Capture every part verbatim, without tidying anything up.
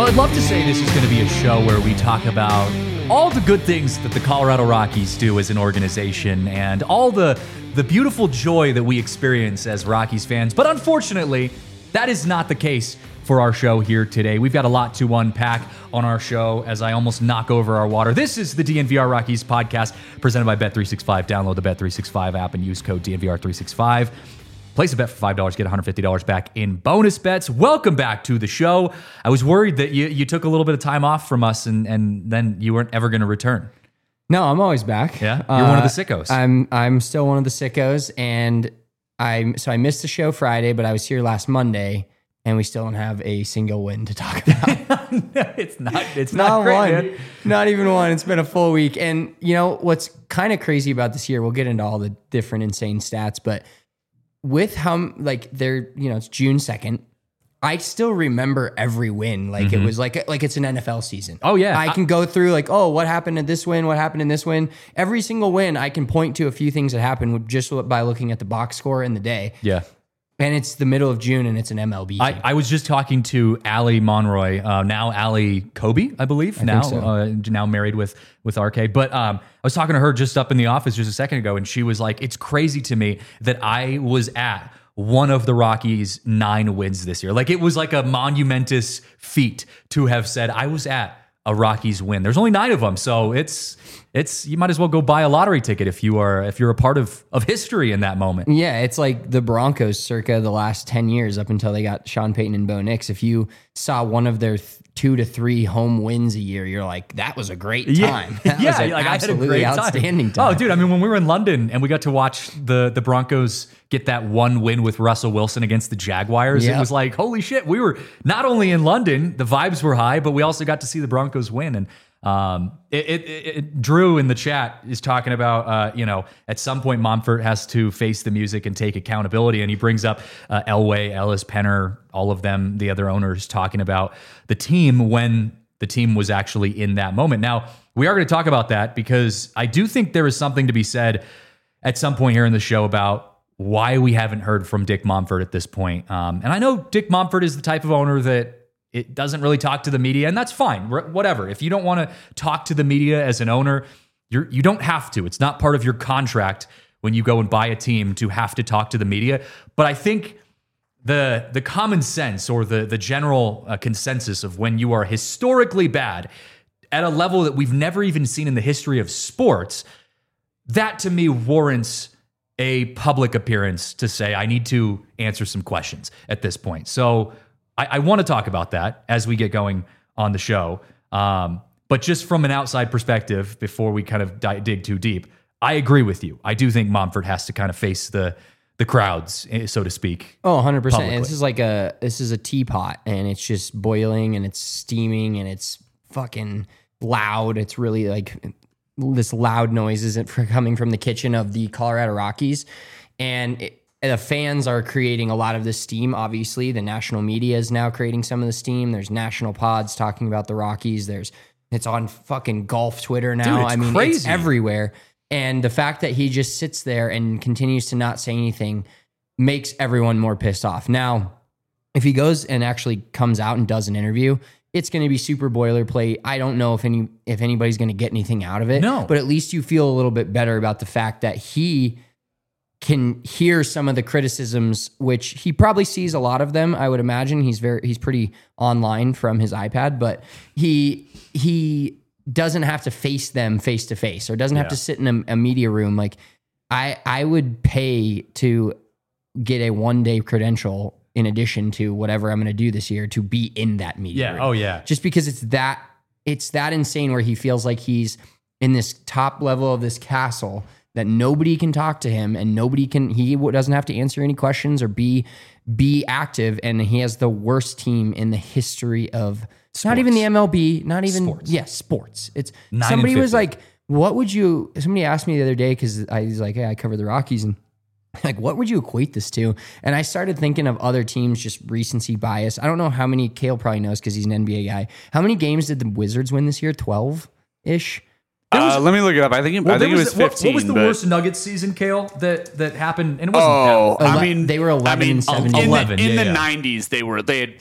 I'd love to say this is going to be a show where we talk about all the good things that the Colorado Rockies do as an organization and all the the beautiful joy that we experience as Rockies fans. But unfortunately, that is not the case for our show here today. We've got a lot to unpack on our show as I almost knock over our water. This is the D N V R Rockies podcast presented by Bet three sixty-five. Download the Bet three sixty-five app and use code D N V R three sixty-five. Place a bet for five dollars, get one hundred fifty dollars back in bonus bets. Welcome back to the show. I was worried that you, you took a little bit of time off from us and, and then you weren't ever going to return. No, I'm always back. Yeah, you're uh, one of the sickos. I'm I'm still one of the sickos, and I so I missed the show Friday, but I was here last Monday, and we still don't have a single win to talk about. No, it's not. It's not, not great, one. Man. Not even one. It's been a full week, and you know what's kind of crazy about this year? We'll get into all the different insane stats, but with how like they're you know it's June second. I still remember every win. Like mm-hmm. it was like like it's an N F L season. Oh yeah. I can go through like, oh, what happened in this win? What happened in this win? Every single win, I can point to a few things that happened just by looking at the box score in the day. Yeah. And it's the middle of June and it's an M L B game. I, I was just talking to Allie Monroy, uh, now Allie Kobe, I believe. I now think so. uh, now married with with R K. But um, I was talking to her just up in the office just a second ago, and she was like, it's crazy to me that I was at one of the Rockies' nine wins this year. Like it was like a monumentous feat to have said I was at a Rockies win. There's only nine of them, so it's it's you might as well go buy a lottery ticket if you are if you're a part of of history in that moment. Yeah, it's like the Broncos circa the last ten years up until they got Sean Payton and Bo Nix. If you saw one of their th- two to three home wins a year, you're like, that was a great time. Yeah, That yeah was an like absolutely I had a great time. outstanding time. Oh, dude, I mean, when we were in London and we got to watch the the Broncos get that one win with Russell Wilson against the Jaguars, yep. It was like, holy shit, we were not only in London, the vibes were high, but we also got to see the Broncos win. And um, it, it, it, Drew in the chat is talking about, uh, you know, at some point Monfort has to face the music and take accountability. And he brings up uh, Elway, Ellis, Penner, all of them, the other owners talking about the team when the team was actually in that moment. Now, we are going to talk about that because I do think there is something to be said at some point here in the show about why we haven't heard from Dick Monfort at this point. Um, and I know Dick Monfort is the type of owner that it doesn't really talk to the media, and that's fine. Whatever. If you don't want to talk to the media as an owner, you're, you don't have to. It's not part of your contract when you go and buy a team to have to talk to the media. But I think the the common sense or the, the general uh, consensus of when you are historically bad at a level that we've never even seen in the history of sports, that to me warrants a public appearance to say, I need to answer some questions at this point. So I, I want to talk about that as we get going on the show. Um, but just from an outside perspective, before we kind of di- dig too deep, I agree with you. I do think Monfort has to kind of face the the crowds, so to speak. Oh, one hundred percent. Publicly. And this is like a this is a teapot, and it's just boiling, and it's steaming, and it's fucking loud. It's really like this loud noise isn't coming from the kitchen of the Colorado Rockies. And it, the fans are creating a lot of the steam, obviously. The national media is now creating some of the steam. There's national pods talking about the Rockies. There's It's on fucking golf Twitter now. Dude, it's I mean, crazy. It's everywhere. And the fact that he just sits there and continues to not say anything makes everyone more pissed off. Now, if he goes and actually comes out and does an interview, it's going to be super boilerplate. I don't know if any if anybody's going to get anything out of it. No. But at least you feel a little bit better about the fact that he can hear some of the criticisms, which he probably sees a lot of them. I would imagine he's very he's pretty online from his iPad, but he he doesn't have to face them face to face, or doesn't have Yeah. to sit in a, a media room. Like I I would pay to get a one day credential in addition to whatever I'm going to do this year to be in that media Yeah. room. Oh, yeah. Just because it's that it's that insane where he feels like he's in this top level of this castle that nobody can talk to him and nobody can, he doesn't have to answer any questions or be be active, and he has the worst team in the history of Sports. Not even the M L B, not even Sports. yeah, sports. It's Nine somebody and was fifty. like, what would you somebody asked me the other day, because I was like, hey, I cover the Rockies, and like, what would you equate this to? And I started thinking of other teams, just recency bias. I don't know how many, Kale probably knows because he's an N B A guy. How many games did the Wizards win this year? twelve-ish? Uh, let me look it up. I think it, Well, I think it there was the- what- fifteen. What was the but, worst Nuggets season, Kale, that that happened? And it wasn't Oh, that. I Ele- mean, they were eleven I mean, and seventeen. in eleven, the, in yeah, the yeah. nineties, they were they had like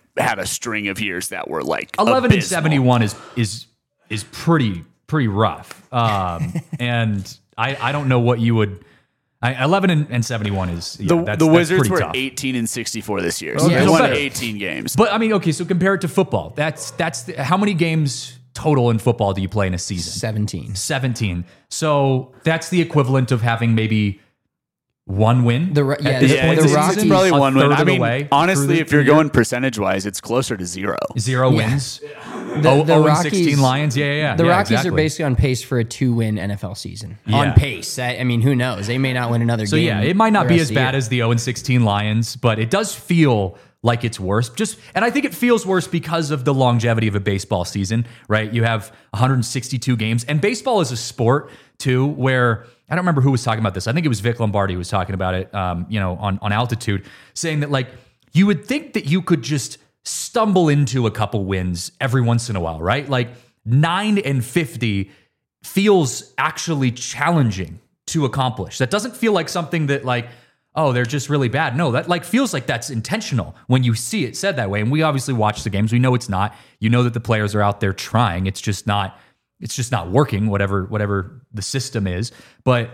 had a string of years that were like eleven and abysmal. seventy-one is is is pretty pretty rough. Um, and I I don't know what you would. I, eleven and, and seventy-one is yeah, The, that's, the that's Wizards pretty were tough. eighteen and sixty-four this year. So Okay, they so won better. eighteen games. But I mean, okay, so compare it to football. That's that's the, how many games total in football do you play in a season? seventeen. seventeen. So that's the equivalent of having maybe one win. The Ro- at yeah, this the- point the in the Rockies- season, probably a one third win. of I the mean, way honestly, through the- if you're through the going percentage wise, it's closer to zero. zero Yeah. wins, The, oh, the oh and Rockies, sixteen Lions, yeah, yeah, yeah. The yeah, Rockies exactly. are basically on pace for a two-win N F L season. Yeah. On pace. I, I mean, who knows? They may not win another So game. yeah, it might not the be rest as of the bad year. as the oh and sixteen Lions, but it does feel like it's worse. Just and I think it feels worse because of the longevity of a baseball season, right? You have one hundred sixty-two games, and baseball is a sport too, where I don't remember who was talking about this. I think it was Vic Lombardi who was talking about it, um, you know, on on Altitude, saying that like you would think that you could just stumble into a couple wins every once in a while, right? Like nine and fifty feels actually challenging to accomplish. That doesn't feel like something that like, oh, they're just really bad. No, that like feels like that's intentional when you see it said that way. And we obviously watch the games. We know it's not. You know that the players are out there trying. It's just not, it's just not working, whatever, whatever the system is. But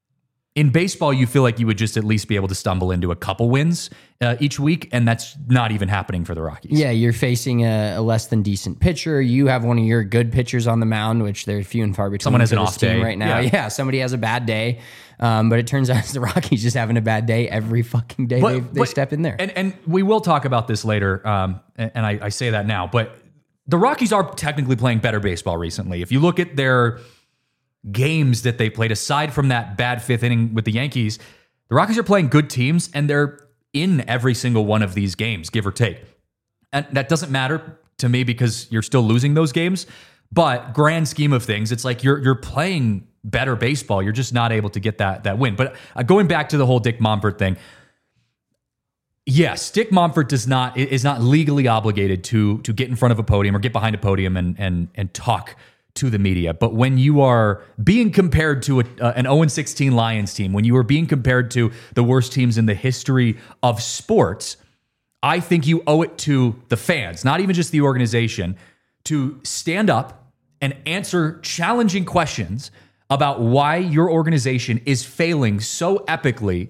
in baseball, you feel like you would just at least be able to stumble into a couple wins uh, each week, and that's not even happening for the Rockies. Yeah, you're facing a, a less than decent pitcher. You have one of your good pitchers on the mound, which they're few and far between. Someone has for an this off team day. right now. Yeah. Yeah. somebody has a bad day. Um, but it turns out the Rockies just having a bad day every fucking day But- they, they but- step in there. And and we will talk about this later, um, and, and I, I say that now, but the Rockies are technically playing better baseball recently. If you look at their games that they played, aside from that bad fifth inning with the Yankees, the Rockies are playing good teams, and they're in every single one of these games, give or take. And that doesn't matter to me because you're still losing those games. But grand scheme of things, it's like you're you're playing better baseball. You're just not able to get that that win. But uh, going back to the whole Dick Monfort thing, yes, Dick Monfort does not is not legally obligated to to get in front of a podium or get behind a podium and and and talk to the media. But when you are being compared to a, uh, an oh and sixteen Lions team, when you are being compared to the worst teams in the history of sports, I think you owe it to the fans, not even just the organization, to stand up and answer challenging questions about why your organization is failing so epically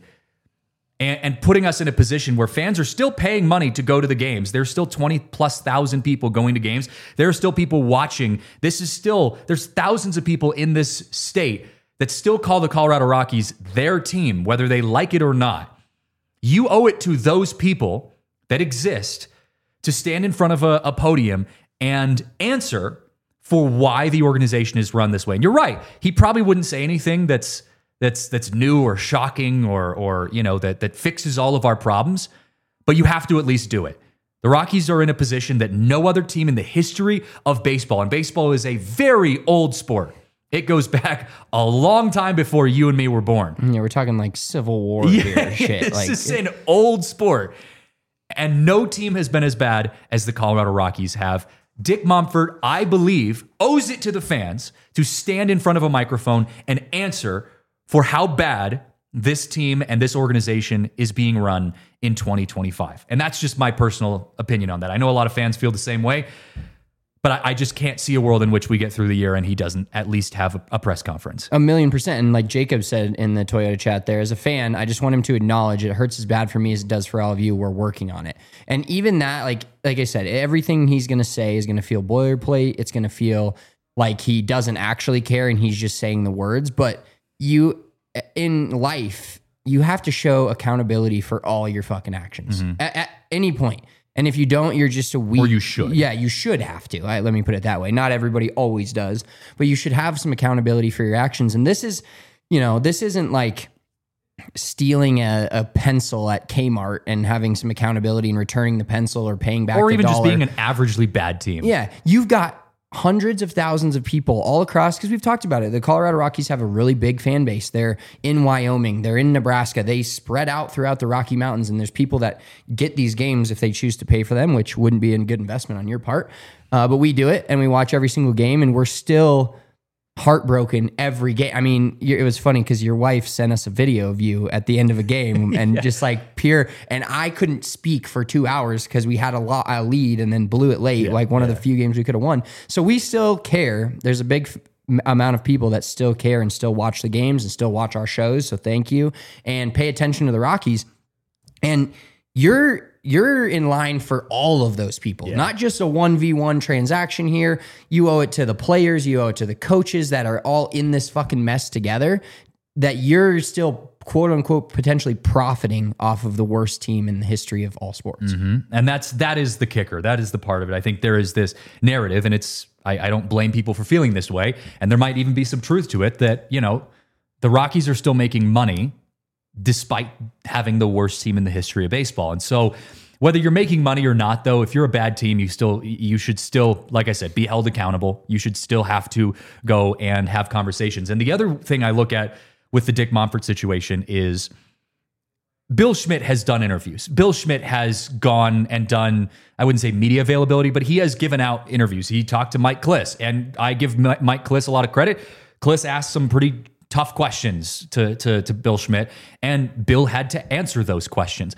and, and putting us in a position where fans are still paying money to go to the games. There's still twenty plus thousand people going to games. There are still people watching. This is still, there's thousands of people in this state that still call the Colorado Rockies their team, whether they like it or not. You owe it to those people that exist to stand in front of a, a podium and answer for why the organization is run this way. And you're right. He probably wouldn't say anything that's that's that's new or shocking or or you know that that fixes all of our problems, but you have to at least do it. The Rockies are in a position that no other team in the history of baseball, and baseball is a very old sport. It goes back a long time before you and me were born. Yeah, we're talking like Civil War here, shit. This Like is an old sport. And no team has been as bad as the Colorado Rockies have. Dick Monfort, I believe, owes it to the fans to stand in front of a microphone and answer for how bad this team and this organization is being run in twenty twenty-five. And that's just my personal opinion on that. I know a lot of fans feel the same way, but I, I just can't see a world in which we get through the year and he doesn't at least have a, a press conference. A million percent. And like Jacob said in the Toyota chat there, as a fan, I just want him to acknowledge it hurts as bad for me as it does for all of you. We're working on it. And even that, like, like I said, everything he's going to say is going to feel boilerplate. It's going to feel like he doesn't actually care and he's just saying the words. But you, in life, you have to show accountability for all your fucking actions at, at any point. And if you don't, you're just a weak... Or you should. Yeah, you should have to. Right? Let me put it that way. Not everybody always does, but you should have some accountability for your actions. And this is, you know, this isn't like stealing a, a pencil at Kmart and having some accountability and returning the pencil or paying back Or the even just dollar. being an averagely bad team. Yeah, you've got hundreds of thousands of people all across, because we've talked about it. The Colorado Rockies have a really big fan base. They're in Wyoming. They're in Nebraska. They spread out throughout the Rocky Mountains, and there's people that get these games if they choose to pay for them, which wouldn't be a good investment on your part. Uh, but we do it, and we watch every single game, and we're still heartbroken every game. I mean, you- it was funny because your wife sent us a video of you at the end of a game and yeah. just like pure. And I couldn't speak for two hours because we had a, lot, a lead and then blew it late, yeah, like one yeah. of the few games we could have won. So we still care. There's a big f- amount of people that still care and still watch the games and still watch our shows. So thank you, and pay attention to the Rockies. And you're you're in line for all of those people, yeah. not just a one v one transaction here. You owe it to the players, you owe it to the coaches that are all in this fucking mess together, that you're still quote unquote potentially profiting off of the worst team in the history of all sports. Mm-hmm. And that's that is the kicker. That is the part of it. I think there is this narrative, and it's I, I don't blame people for feeling this way, and there might even be some truth to it that, you know, the Rockies are still making money despite having the worst team in the history of baseball. And so whether you're making money or not, though, if you're a bad team, you still you should still, like I said, be held accountable. You should still have to go and have conversations. And the other thing I look at with the Dick Monfort situation is Bill Schmidt has done interviews. Bill Schmidt has gone and done, I wouldn't say media availability, but he has given out interviews. He talked to Mike Kliss, and I give Mike Kliss a lot of credit. Kliss asked some pretty tough questions to, to, to Bill Schmidt, and Bill had to answer those questions.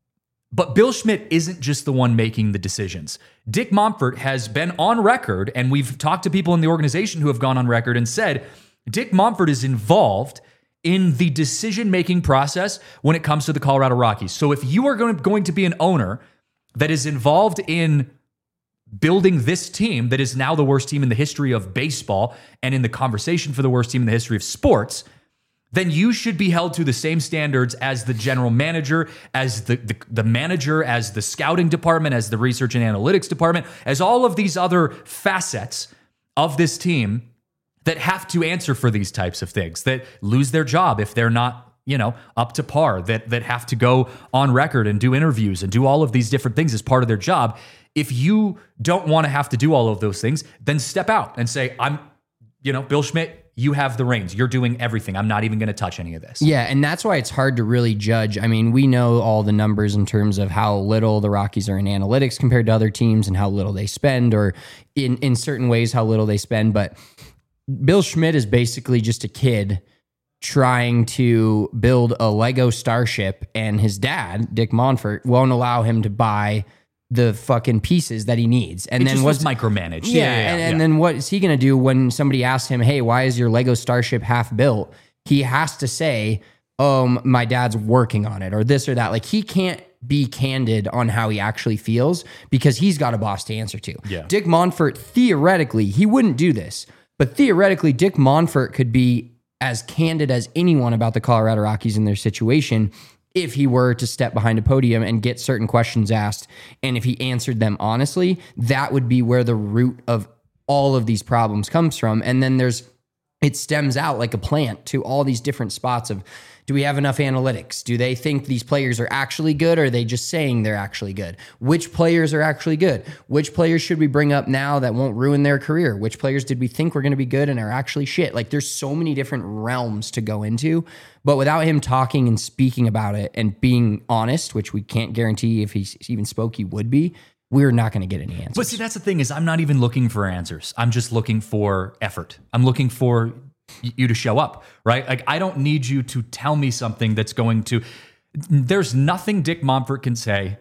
But Bill Schmidt isn't just the one making the decisions. Dick Monfort has been on record, and we've talked to people in the organization who have gone on record and said Dick Monfort is involved in the decision-making process when it comes to the Colorado Rockies. So if you are going to, going to be an owner that is involved in building this team that is now the worst team in the history of baseball and in the conversation for the worst team in the history of sports, then you should be held to the same standards as the general manager, as the, the, the manager, as the scouting department, as the research and analytics department, as all of these other facets of this team that have to answer for these types of things, that lose their job if they're not, you know, up to par, that that have to go on record and do interviews and do all of these different things as part of their job. If you don't want to have to do all of those things, then step out and say, I'm, you know, Bill Schmidt, you have the reins. You're doing everything. I'm not even going to touch any of this. Yeah, and that's why it's hard to really judge. I mean, we know all the numbers in terms of how little the Rockies are in analytics compared to other teams and how little they spend, or in, in certain ways how little they spend. But Bill Schmidt is basically just a kid trying to build a Lego starship, and his dad, Dick Monfort, won't allow him to buy the fucking pieces that he needs. And it then just what's was micromanaged. Yeah, yeah, yeah, and, yeah. and then what is he going to do when somebody asks him, hey, why is your Lego starship half built? He has to say, um, my dad's working on it, or this or that. Like, he can't be candid on how he actually feels because he's got a boss to answer to. Yeah. Dick Monfort, theoretically, he wouldn't do this, but theoretically, Dick Monfort could be as candid as anyone about the Colorado Rockies in their situation if he were to step behind a podium and get certain questions asked. And if he answered them honestly, that would be where the root of all of these problems comes from. And then there's, it stems out like a plant to all these different spots of, do we have enough analytics? Do they think these players are actually good, or are they just saying they're actually good? Which players are actually good? Which players should we bring up now that won't ruin their career? Which players did we think were going to be good and are actually shit? Like, there's so many different realms to go into, but without him talking and speaking about it and being honest, which we can't guarantee if he even spoke, he would be, we're not going to get any answers. But see, that's the thing is I'm not even looking for answers. I'm just looking for effort. I'm looking for you to show up, right? Like, I don't need you to tell me something that's going to, there's nothing Dick Monfort can say,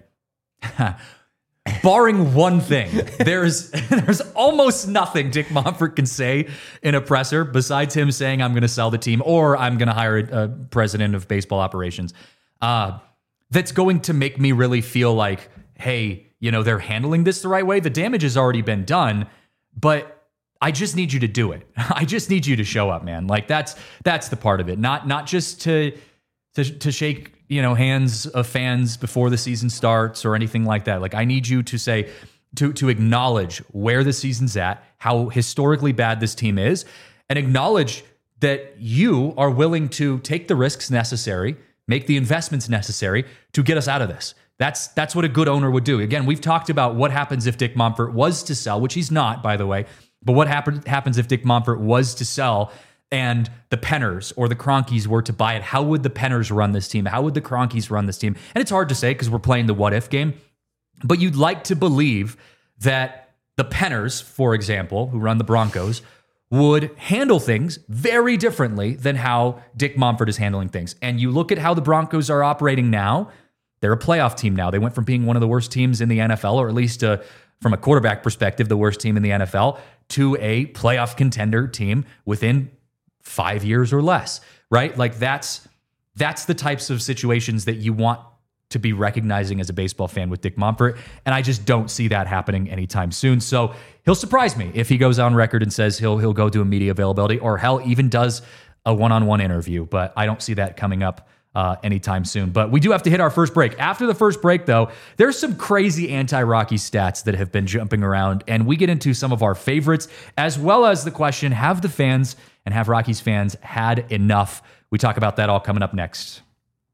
barring one thing. There's there's almost nothing Dick Monfort can say in a presser besides him saying, I'm going to sell the team, or I'm going to hire a, a president of baseball operations. Uh, that's going to make me really feel like, hey, you know, they're handling this the right way. The damage has already been done, but I just need you to do it. I just need you to show up, man. Like, that's that's the part of it. Not not just to to to shake, you know, hands of fans before the season starts or anything like that. Like, I need you to say to to acknowledge where the season's at, how historically bad this team is, and acknowledge that you are willing to take the risks necessary, make the investments necessary to get us out of this. That's that's what a good owner would do. Again, we've talked about what happens if Dick Monfort was to sell, which he's not, by the way. But what happen, happens if Dick Monfort was to sell and the Penners or the Cronkies were to buy it? How would the Penners run this team? How would the Cronkies run this team? And it's hard to say because we're playing the what-if game. But you'd like to believe that the Penners, for example, who run the Broncos, would handle things very differently than how Dick Monfort is handling things. And you look at how the Broncos are operating now, they're a playoff team now. They went from being one of the worst teams in the N F L, or at least uh, from a quarterback perspective, the worst team in the N F L, to a playoff contender team within five years or less, right? Like that's that's the types of situations that you want to be recognizing as a baseball fan with Dick Monfort. And I just don't see that happening anytime soon. So he'll surprise me if he goes on record and says he'll he'll go do a media availability, or hell, even does a one-on-one interview. But I don't see that coming up uh, anytime soon. But we do have to hit our first break. After the first break, though, there's some crazy anti-Rocky stats that have been jumping around, and we get into some of our favorites, as well as the question, have the fans and have Rockies fans had enough? We talk about that all coming up next.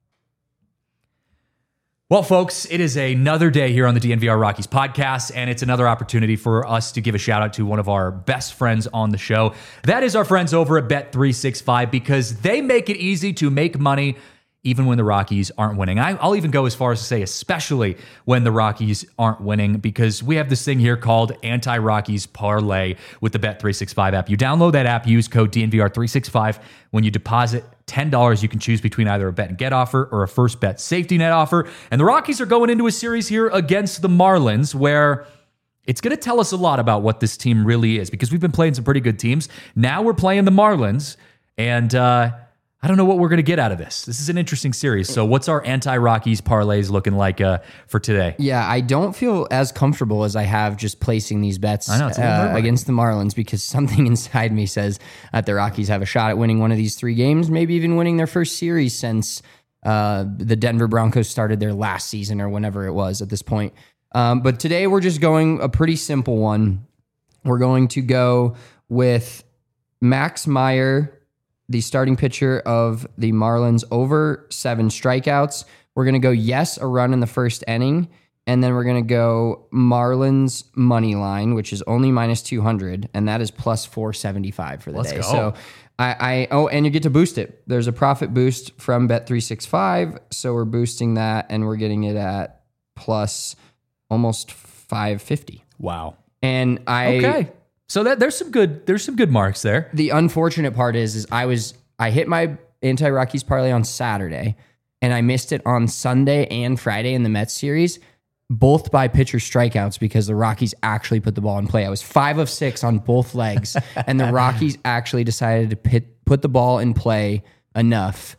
Well, folks, it is another day here on the D N V R Rockies podcast, and it's another opportunity for us to give a shout out to one of our best friends on the show. That is our friends over at Bet three sixty-five, because they make it easy to make money even when the Rockies aren't winning. I, I'll even go as far as to say especially when the Rockies aren't winning, because we have this thing here called Anti-Rockies Parlay with the Bet three sixty-five app. You download that app, use code D N V R three sixty-five. When you deposit ten dollars, you can choose between either a bet and get offer or a first bet safety net offer. And the Rockies are going into a series here against the Marlins, where it's going to tell us a lot about what this team really is, because we've been playing some pretty good teams. Now we're playing the Marlins, and uh, I don't know what we're going to get out of this. This is an interesting series. So what's our anti-Rockies parlays looking like uh, for today? Yeah, I don't feel as comfortable as I have just placing these bets I know, it's a little uh, nerve-wracking. against the Marlins, because something inside me says that the Rockies have a shot at winning one of these three games, maybe even winning their first series since uh, the Denver Broncos started their last season, or whenever it was at this point. Um, but today we're just going a pretty simple one. We're going to go with Max Meyer, the starting pitcher of the Marlins, over seven strikeouts. We're going to go yes, a run in the first inning. And then we're going to go Marlins money line, which is only minus two hundred. And that is plus four seventy-five for the Let's day. go. So I, I, oh, and you get to boost it. There's a profit boost from Bet three sixty-five. So we're boosting that, and we're getting it at plus almost five fifty. Wow. And I, Okay. So that there's some good there's some good marks there. the unfortunate part is, is I was I hit my anti-Rockies parlay on Saturday, and I missed it on Sunday and Friday in the Mets series, both by pitcher strikeouts, because the Rockies actually put the ball in play. I was five of six on both legs, and the Rockies actually decided to pit, put the ball in play enough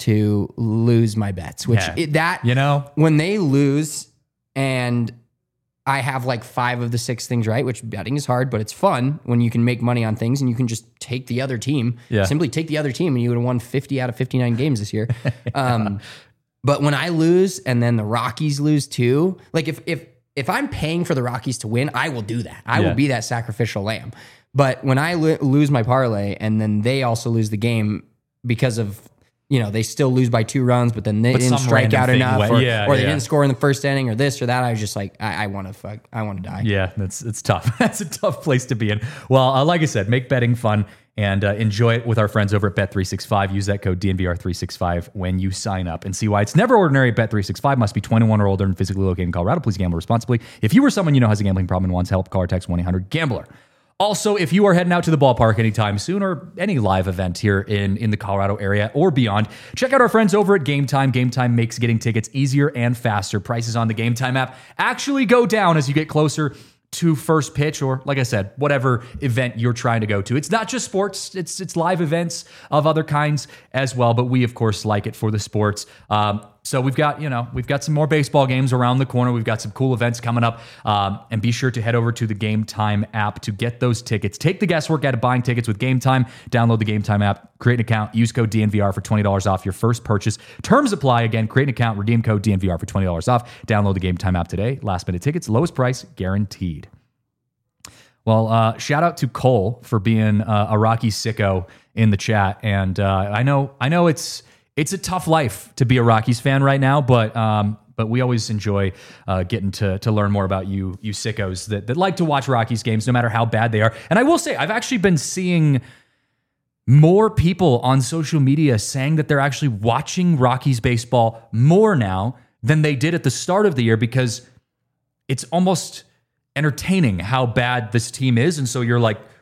to lose my bets. Which Yeah. it, that You know? when they lose, and I have like five of the six things right, which betting is hard, but it's fun when you can make money on things and you can just take the other team. Yeah. Simply take the other team, and you would have won fifty out of fifty-nine games this year. Um, but when I lose and then the Rockies lose too, like if if if I'm paying for the Rockies to win, I will do that. I Yeah. will be that sacrificial lamb. But when I lo- lose my parlay and then they also lose the game because of, you know, they still lose by two runs, but then they But didn't some strike random out thing enough, went- or, yeah, or they yeah. didn't score in the first inning, or this or that. I was just like, I, I want to fuck, I want to die. Yeah, that's it's tough. That's a tough place to be in. Well, uh, like I said, make betting fun and uh, enjoy it with our friends over at Bet three sixty-five. Use that code D N V R three sixty-five when you sign up, and see why it's never ordinary at Bet three sixty-five. Must be twenty-one or older and physically located in Colorado. Please gamble responsibly. If you or someone you know has a gambling problem and wants help, call or text one eight hundred gambler. Also, if you are heading out to the ballpark anytime soon, or any live event here in, in the Colorado area or beyond, check out our friends over at Game Time. Game Time makes getting tickets easier and faster. Prices on the Game Time app actually go down as you get closer to first pitch, or like I said, whatever event you're trying to go to. It's not just sports, it's it's live events of other kinds as well, but we of course like it for the sports. Um, so we've got, you know, we've got some more baseball games around the corner. We've got some cool events coming up. Um, and be sure to head over to the Game Time app to get those tickets. Take the guesswork out of buying tickets with Game Time. Download the Game Time app, create an account, use code D N V R for twenty dollars off your first purchase. Terms apply. Again, create an account, redeem code D N V R for twenty dollars off. Download the Game Time app today. Last minute tickets, lowest price guaranteed. Well, uh, shout out to Cole for being uh, a Rocky sicko in the chat, and uh, I know, I know it's it's a tough life to be a Rockies fan right now, but um, but we always enjoy uh, getting to to learn more about you you sickos that that like to watch Rockies games, no matter how bad they are. And I will say, I've actually been seeing more people on social media saying that they're actually watching Rockies baseball more now than they did at the start of the year, because it's almost entertaining how bad this team is. And so you're like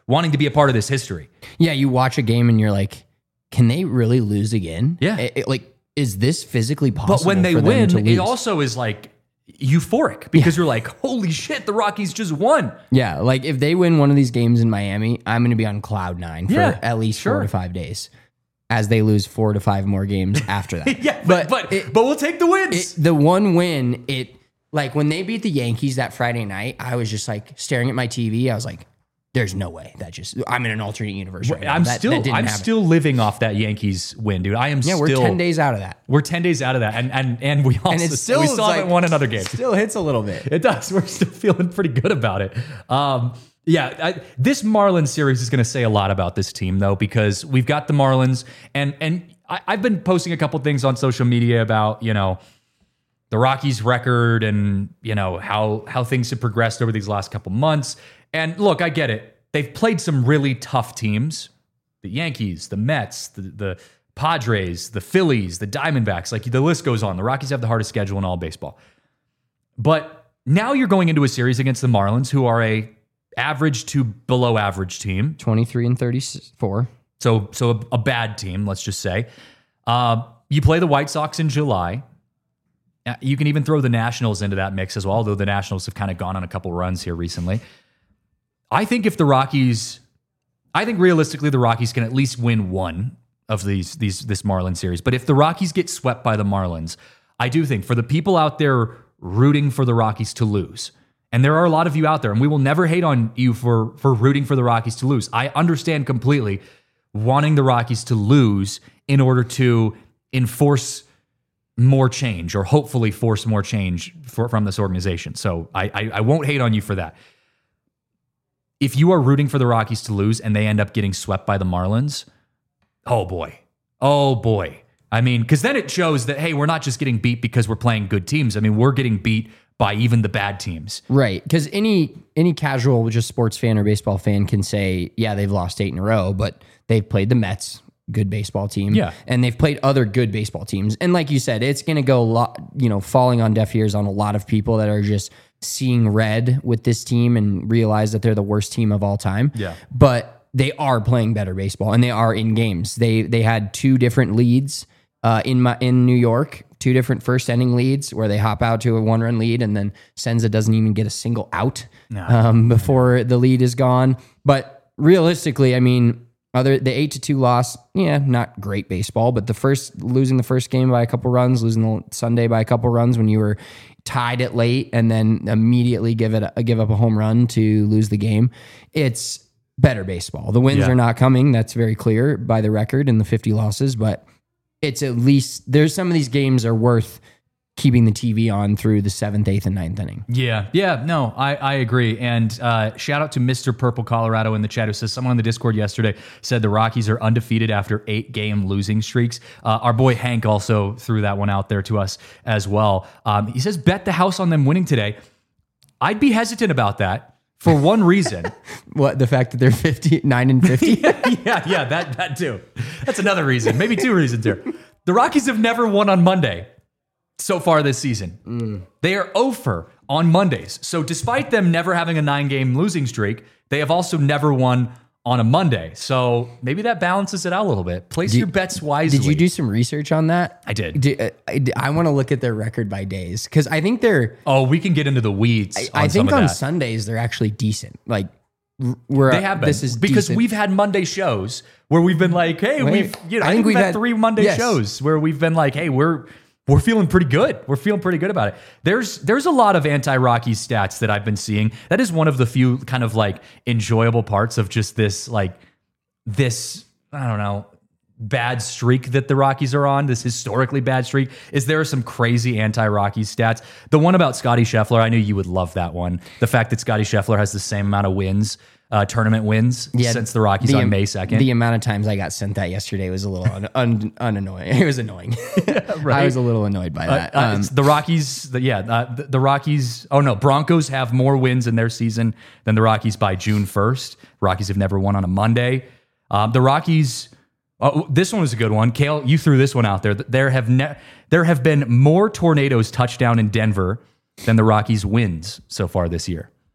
wanting to be a part of this history. Yeah, you watch a game and you're like, can they really lose again? Yeah. It- it- like, is this physically possible? But when they for them win, to it lose? also is like euphoric because you're like, holy shit, the Rockies just won. Yeah, like if they win one of these games in Miami, I'm going to be on cloud nine for Yeah, at least sure. four to five days, as they lose four to five more games after that. Yeah, but but, it- but we'll take the wins. it, the one win, it like when they beat the Yankees that Friday night, I was just like staring at my T V. I was like, "There's no way that just I'm in an alternate universe right now. I'm That- still that didn't I'm happen." still living off that Yankees win, dude. I am Yeah, still we're ten days out of that, We're ten days out of that, and and and we also and it's still we still like, haven't won another game. Still hits a little bit. It does. We're still feeling pretty good about it. Um, yeah, I, this Marlins series is going to say a lot about this team, though, because we've got the Marlins, and and I, I've been posting a couple things on social media about you know the Rockies' record and you know how how things have progressed over these last couple months. And look, I get it. They've played some really tough teams: the Yankees, the Mets, the the Padres, the Phillies, the Diamondbacks. Like the list goes on. The Rockies have the hardest schedule in all baseball. But now you're going into a series against the Marlins, who are a average to below average team. twenty-three and thirty-four. So so a, a bad team, let's just say. Uh, you play the White Sox in July. Uh, You can even throw the Nationals into that mix as well, although the Nationals have kind of gone on a couple runs here recently. I think if the Rockies, I think realistically the Rockies can at least win one of these these this Marlins series. But if the Rockies get swept by the Marlins, I do think for the people out there rooting for the Rockies to lose, and there are a lot of you out there, and we will never hate on you for for rooting for the Rockies to lose. I understand completely wanting the Rockies to lose in order to enforce more change or hopefully force more change for, from this organization. So I, I I won't hate on you for that. If you are rooting for the Rockies to lose and they end up getting swept by the Marlins, oh boy. Oh boy. I mean, because then it shows that, hey, we're not just getting beat because we're playing good teams. I mean, we're getting beat by even the bad teams. Right, because any any casual just sports fan or baseball fan can say, yeah, they've lost eight in a row, but they've played the Mets, good baseball team, Yeah. and they've played other good baseball teams. And like you said, it's going to go a lot, you know, falling on deaf ears on a lot of people that are just seeing red with this team and realize that they're the worst team of all time. Yeah. But they are playing better baseball, and they are in games. They they had two different leads uh, in my, in New York. Two different first inning leads where they hop out to a one run lead and then Senza doesn't even get a single out No. um, before the lead is gone. But realistically, I mean, other the eight to two loss, yeah, not great baseball. But the first losing the first game by a couple runs, losing the Sunday by a couple runs when you were tied it late and then immediately give it a, give up a home run to lose the game, it's better baseball. The wins Yeah. are not coming. That's very clear by the record and the fifty losses, but it's at least there's some of these games are worth keeping the T V on through the seventh, eighth, and ninth inning. Yeah, yeah, no, I, I agree. And uh, shout out to Mister Purple Colorado in the chat who says someone on the Discord yesterday said the Rockies are undefeated after eight game losing streaks. Uh, our boy Hank also threw that one out there to us as well. Um, he says bet the house on them winning today. I'd be hesitant about that for one reason. What, the fact that they're fifty nine and fifty? yeah, yeah, that that too. That's another reason. Maybe two reasons here. The Rockies have never won on Monday so far this season. Mm. They are over on Mondays. So despite them never having a nine-game losing streak, they have also never won on a Monday. So maybe that balances it out a little bit. Place your bets wisely. Did you do some research on that? I did. Do- uh, I, I want to look at their record by days because I think they're. Oh, we can get into the weeds. I, on I think some of on that. Sundays they're actually decent. Like r- we're They have been. This is because decent. we've had Monday shows where we've been like, hey, Wait, we've you know, I think we've had, three Monday yes. shows where we've been like, hey, we're we're feeling pretty good. We're feeling pretty good about it. There's there's a lot of anti-Rockies stats that I've been seeing. That is one of the few kind of like enjoyable parts of just this like this, I don't know, bad streak that the Rockies are on, this historically bad streak, is there are some crazy anti-Rockies stats. The one about Scotty Scheffler, I knew you would love that one. The fact that Scotty Scheffler has the same amount of wins, uh, tournament wins, Yeah, since the Rockies the on am- May second. The amount of times I got sent that yesterday was a little un, un, unannoying. It was annoying. I was a little annoyed by that. Uh, Um, it's the Rockies, the, yeah, uh, the, the Rockies, oh no, Broncos have more wins in their season than the Rockies by June first. Rockies have never won on a Monday. Um, the Rockies, oh, this one was a good one. Kale, you threw this one out there. There have ne- there have been more tornadoes touchdown in Denver than the Rockies wins so far this year.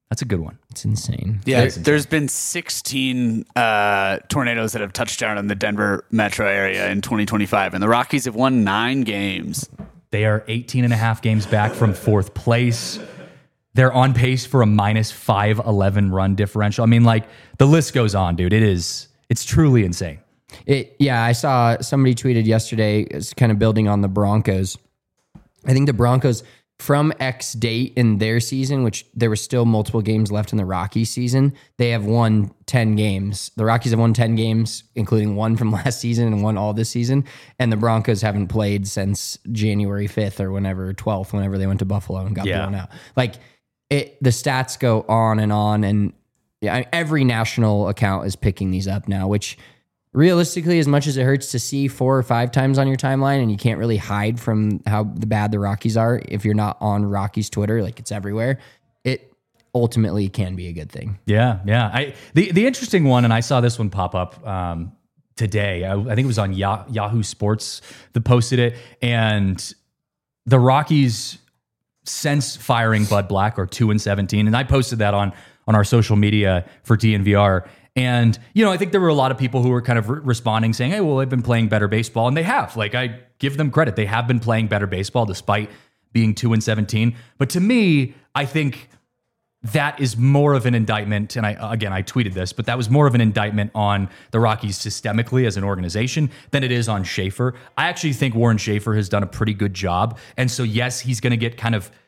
That's a good one. It's insane. Yeah, there's been sixteen uh, tornadoes that have touched down in the Denver metro area in twenty twenty-five, and the Rockies have won nine games. They are eighteen and a half games back from fourth place. They're on pace for a minus five eleven run differential. I mean, like, the list goes on, dude. It is, it's truly insane. It, yeah, I saw somebody tweeted yesterday, it's kind of building on the Broncos. I think the Broncos, from X date in their season, which there were still multiple games left in the Rockies season, they have won ten games. The Rockies have won ten games, including one from last season and one all this season. And the Broncos haven't played since January fifth or whenever, twelfth, whenever they went to Buffalo and got Yeah. blown out. Like, it, the stats go on and on. And yeah, every national account is picking these up now, which realistically, as much as it hurts to see four or five times on your timeline, and you can't really hide from how the bad the Rockies are if you're not on Rockies Twitter, like it's everywhere, it ultimately can be a good thing. Yeah, yeah. I the the interesting one, and I saw this one pop up um, today. I, I think it was on Yah- Yahoo Sports that posted it, and the Rockies, since firing Bud Black, are two and seventeen, and I posted that on on our social media for D N V R. And, you know, I think there were a lot of people who were kind of re- responding saying, hey, well, they've been playing better baseball. And they have. Like, I give them credit. They have been playing better baseball despite being two and seventeen. But to me, I think that is more of an indictment. And I, again, I tweeted this, but that was more of an indictment on the Rockies systemically as an organization than it is on Schaefer. I actually think Warren Schaefer has done a pretty good job. And so, yes, he's going to get kind of,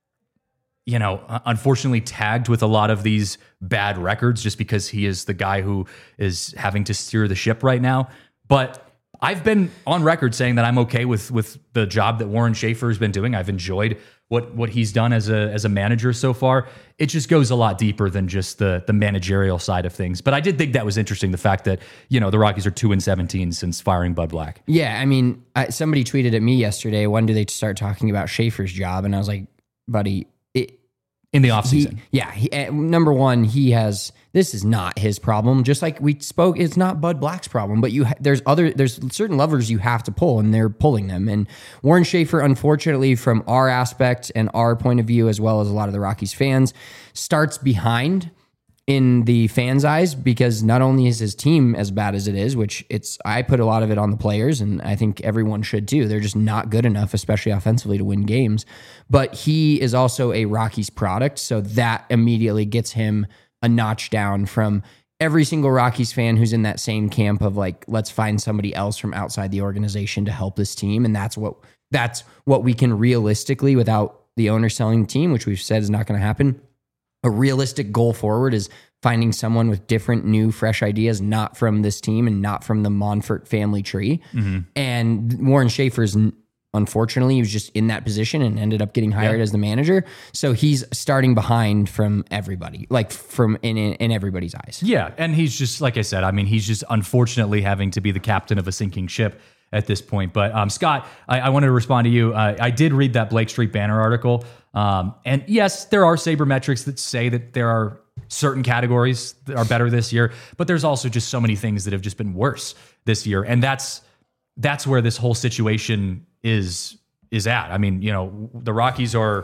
you know, unfortunately tagged with a lot of these bad records just because he is the guy who is having to steer the ship right now. But I've been on record saying that I'm okay with with the job that Warren Schaefer has been doing. I've enjoyed what what he's done as a as a manager so far. It just goes a lot deeper than just the the managerial side of things. But I did think that was interesting, the fact that, you know, the Rockies are two and seventeen since firing Bud Black. Yeah, I mean, I, somebody tweeted at me yesterday, when do they start talking about Schaefer's job? And I was like, buddy, it, In the offseason. He, yeah. He, uh, number one, he has, this is not his problem. Just like we spoke, it's not Bud Black's problem, but you, ha- there's other, there's certain levers you have to pull, and they're pulling them. And Warren Schaefer, unfortunately, from our aspect and our point of view, as well as a lot of the Rockies fans, starts behind in the fans' eyes, because not only is his team as bad as it is, which it's, I put a lot of it on the players, and I think everyone should too. They're just not good enough, especially offensively, to win games. But he is also a Rockies product, so that immediately gets him a notch down from every single Rockies fan who's in that same camp of like, let's find somebody else from outside the organization to help this team. And that's what that's what we can realistically, without the owner selling the team, which we've said is not going to happen. A realistic goal forward is finding someone with different, new, fresh ideas, not from this team and not from the Monfort family tree. Mm-hmm. And Warren Schaefer's, unfortunately, he was just in that position and ended up getting hired yeah. as the manager. So he's starting behind from everybody, like from in, in, in everybody's eyes. Yeah, and he's just, like I said, I mean, he's just unfortunately having to be the captain of a sinking ship at this point. But um, Scott, I, I wanted to respond to you. Uh, I did read that Blake Street Banner article. Um, and yes, there are sabermetrics that say that there are certain categories that are better this year, but there's also just so many things that have just been worse this year. And that's that's where this whole situation is is at. I mean, you know, the Rockies are,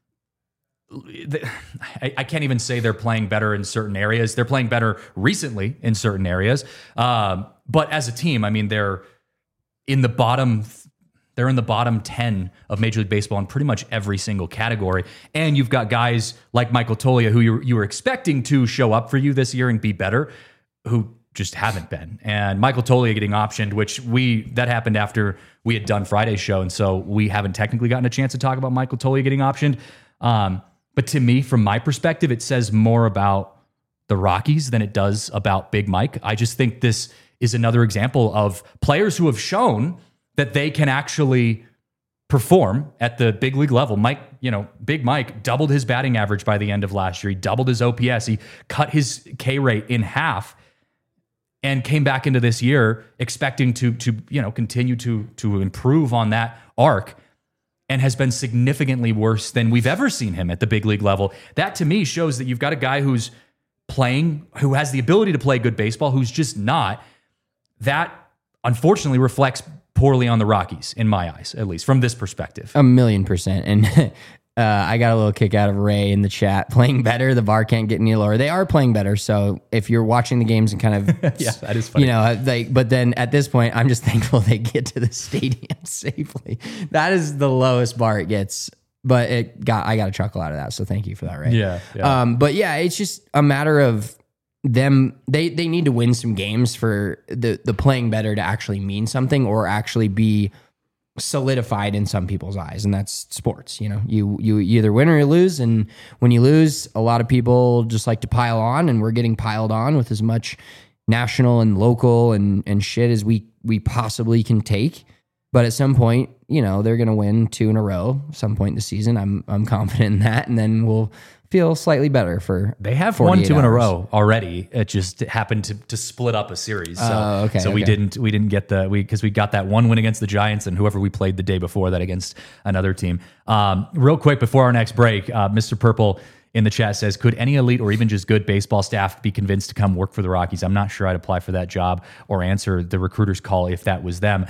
I, I can't even say they're playing better in certain areas. They're playing better recently in certain areas. Um, but as a team, I mean, they're in the bottom They're in the bottom ten of Major League Baseball in pretty much every single category. And you've got guys like Michael Toglia, who you, you were expecting to show up for you this year and be better, who just haven't been. And Michael Toglia getting optioned, which we that happened after we had done Friday's show, and so we haven't technically gotten a chance to talk about Michael Toglia getting optioned. Um, but to me, from my perspective, it says more about the Rockies than it does about Big Mike. I just think this is another example of players who have shown that they can actually perform at the big league level. Mike, you know, Big Mike doubled his batting average by the end of last year. He doubled his O P S. He cut his K rate in half and came back into this year expecting to, to you know, continue to, to improve on that arc, and has been significantly worse than we've ever seen him at the big league level. That to me shows that you've got a guy who's playing, who has the ability to play good baseball, who's just not. That unfortunately reflects poorly on the Rockies, in my eyes, at least from this perspective. A million percent. And Uh, I got a little kick out of Ray in the chat. Playing better, the bar can't get any lower. They are playing better. So if you're watching the games and kind of, Yeah, that is funny. you know, like, but then at this point, I'm just thankful they get to the stadium safely. That is the lowest bar it gets. But it got, I got a chuckle out of that. So thank you for that, Ray. Yeah, yeah. Um, but yeah, it's just a matter of them. They they need to win some games for the the playing better to actually mean something or actually be solidified in some people's eyes, and that's sports. You know, you you either win or you lose, and when you lose, a lot of people just like to pile on, and we're getting piled on with as much national and local and and shit as we we possibly can take. But at some point, you know, they're going to win two in a row. Some point in the season, I'm I'm confident in that, and then we'll feel slightly better for. They have won two hours. in a row already. It just happened to, to split up a series. So, Oh, okay, so we okay. didn't we didn't get the we because we got that one win against the Giants and whoever we played the day before that against another team. Um, real quick before our next break, uh, Mister Purple in the chat says, could any elite or even just good baseball staff be convinced to come work for the Rockies? I'm not sure I'd apply for that job or answer the recruiter's call if that was them.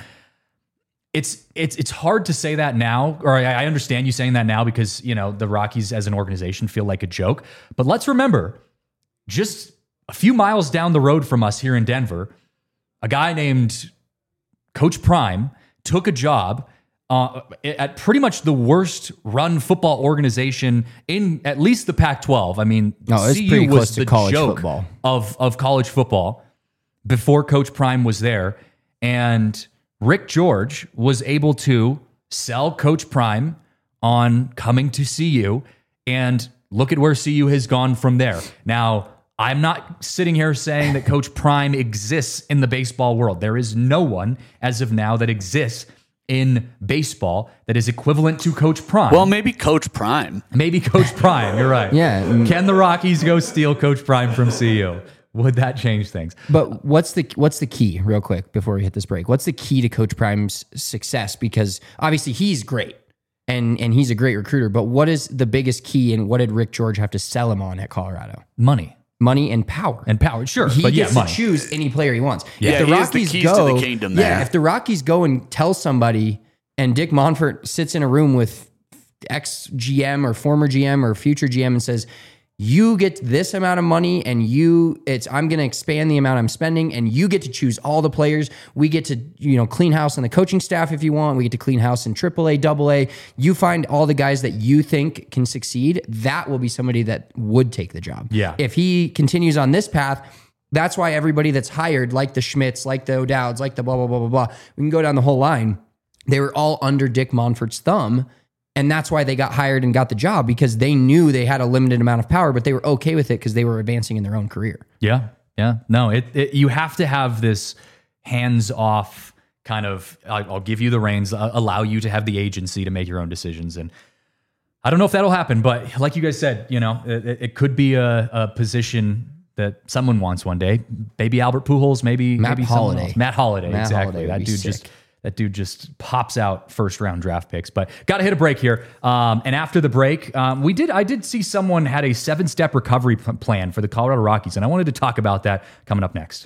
It's it's it's hard to say that now, or I, I understand you saying that now because, you know, the Rockies as an organization feel like a joke. But let's remember, just a few miles down the road from us here in Denver, a guy named Coach Prime took a job uh, at pretty much the worst run football organization in at least the Pac twelve. I mean, No, it's C U pretty was close to the college joke football. of of college football before Coach Prime was there, and Rick George was able to sell Coach Prime on coming to C U, and look at where C U has gone from there. Now, I'm not sitting here saying that Coach Prime exists in the baseball world. There is no one as of now that exists in baseball that is equivalent to Coach Prime. Well, maybe Coach Prime. Maybe Coach Prime. You're right. Yeah. Can the Rockies go steal Coach Prime from C U? Would that change things? But what's the what's the key, real quick, before we hit this break? What's the key to Coach Prime's success? Because obviously he's great and and he's a great recruiter. But what is the biggest key, and what did Rick George have to sell him on at Colorado? Money Money and power. and power. Sure, He but yeah, gets money. to choose any player he wants. Yeah, if the he has the Rockies keys go, to the kingdom yeah, there. if the Rockies go and tell somebody, and Dick Monfort sits in a room with ex G M or former G M or future G M and says, you get this amount of money, and you it's I'm going to expand the amount I'm spending, and you get to choose all the players. We get to, you know, clean house on the coaching staff if you want. We get to clean house in triple A, double A. You find all the guys that you think can succeed. That will be somebody that would take the job. Yeah. If he continues on this path, that's why everybody that's hired, like the Schmitz, like the O'Dowds, like the blah, blah, blah, blah, blah, we can go down the whole line. They were all under Dick Monfort's thumb. And that's why they got hired and got the job, because they knew they had a limited amount of power, but they were okay with it because they were advancing in their own career. Yeah, yeah. No, it, it you have to have this hands-off kind of, I'll, I'll give you the reins, uh, allow you to have the agency to make your own decisions. And I don't know if that'll happen, but like you guys said, you know, it, it could be a, a position that someone wants one day. Maybe Albert Pujols, maybe Matt maybe someone Holliday. else. Matt Holliday, Matt exactly. Holliday would that be dude sick. just that dude just pops out first round draft picks. But got to hit a break here. Um, and after the break, um, we did I did see someone had a seven step recovery p- plan for the Colorado Rockies, and I wanted to talk about that coming up next.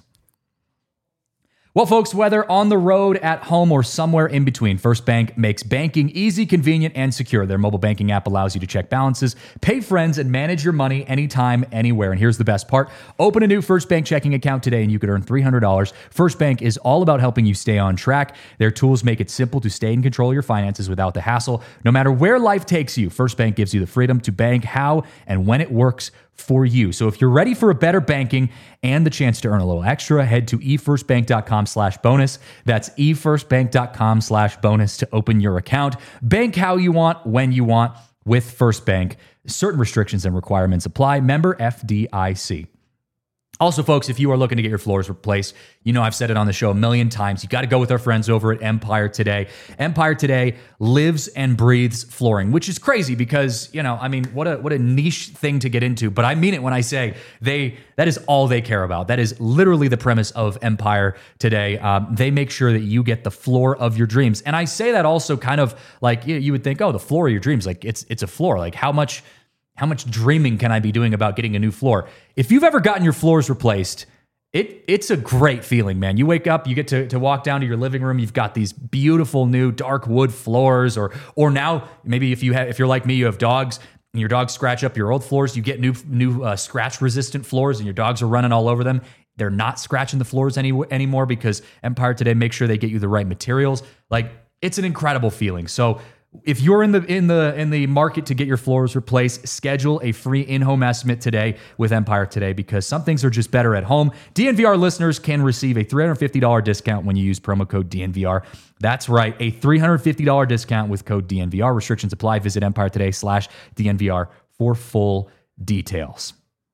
Well, folks, whether on the road, at home, or somewhere in between, First Bank makes banking easy, convenient, and secure. Their mobile banking app allows you to check balances, pay friends, and manage your money anytime, anywhere. And here's the best part. Open a new First Bank checking account today, and you could earn three hundred dollars. First Bank is all about helping you stay on track. Their tools make it simple to stay in control of your finances without the hassle. No matter where life takes you, First Bank gives you the freedom to bank how and when it works for you. So if you're ready for a better banking and the chance to earn a little extra, head to efirstbank.com slash bonus. That's efirstbank.com slash bonus to open your account. Bank how you want, when you want with First Bank. Certain restrictions and requirements apply. Member F D I C. Also, folks, if you are looking to get your floors replaced, you know I've said it on the show a million times. You got to go with our friends over at Empire Today. Empire Today lives and breathes flooring, which is crazy because, you know, I mean, what a what a niche thing to get into. But I mean it when I say they that is all they care about. That is literally the premise of Empire Today. Um, they make sure that you get the floor of your dreams. And I say that also kind of like you, you would think, oh, the floor of your dreams, like it's it's a floor. Like how much How much dreaming can I be doing about getting a new floor? If you've ever gotten your floors replaced, it it's a great feeling, man. You wake up, you get to, to walk down to your living room. You've got these beautiful new dark wood floors, or or now maybe if you have if you're like me, you have dogs. And your dogs scratch up your old floors. You get new new uh, scratch resistant floors, and your dogs are running all over them. They're not scratching the floors any anymore because Empire Today makes sure they get you the right materials. Like, it's an incredible feeling. So if you're in the in the in the market to get your floors replaced, schedule a free in-home estimate today with Empire Today, because some things are just better at home. D N V R listeners can receive a three hundred fifty dollars discount when you use promo code D N V R. That's right, a three hundred fifty dollars discount with code D N V R. Restrictions apply. Visit Empire Today slash D N V R for full details.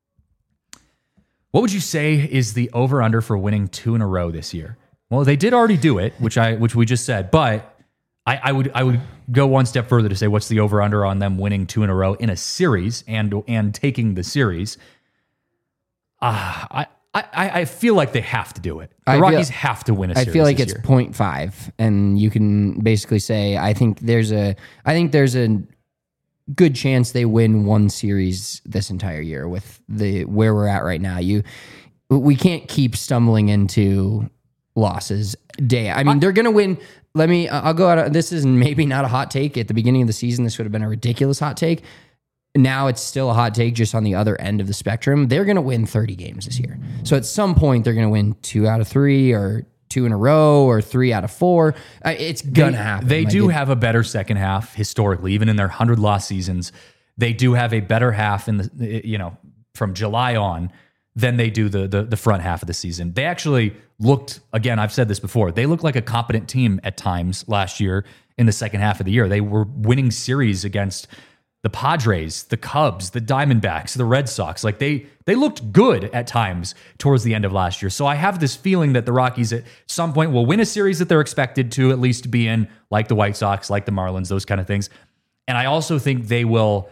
What would you say is the over-under for winning two in a row this year? Well, they did already do it, which I which we just said, but I, I would I would go one step further to say, what's the over-under on them winning two in a row in a series and and taking the series? Uh, I, I I feel like they have to do it. The I Rockies feel, have to win a series. I feel like this it's year. zero point five, and you can basically say I think there's a I think there's a good chance they win one series this entire year with the where we're at right now. You we can't keep stumbling into losses day. I mean, I, they're going to win. Let me I'll go out of, this is maybe not a hot take. At the beginning of the season, this would have been a ridiculous hot take. Now it's still a hot take, just on the other end of the spectrum. They're going to win thirty games this year. So at some point they're going to win two out of three, or two in a row, or three out of four. It's going to happen. They like do it, have a better second half historically, even in their one hundred loss seasons. They do have a better half in the, you know, from July on than they do the, the the front half of the season. They actually looked, again, I've said this before, they looked like a competent team at times last year in the second half of the year. They were winning series against the Padres, the Cubs, the Diamondbacks, the Red Sox. Like they they looked good at times towards the end of last year. So I have this feeling that the Rockies at some point will win a series that they're expected to at least be in, like the White Sox, like the Marlins, those kind of things. And I also think they will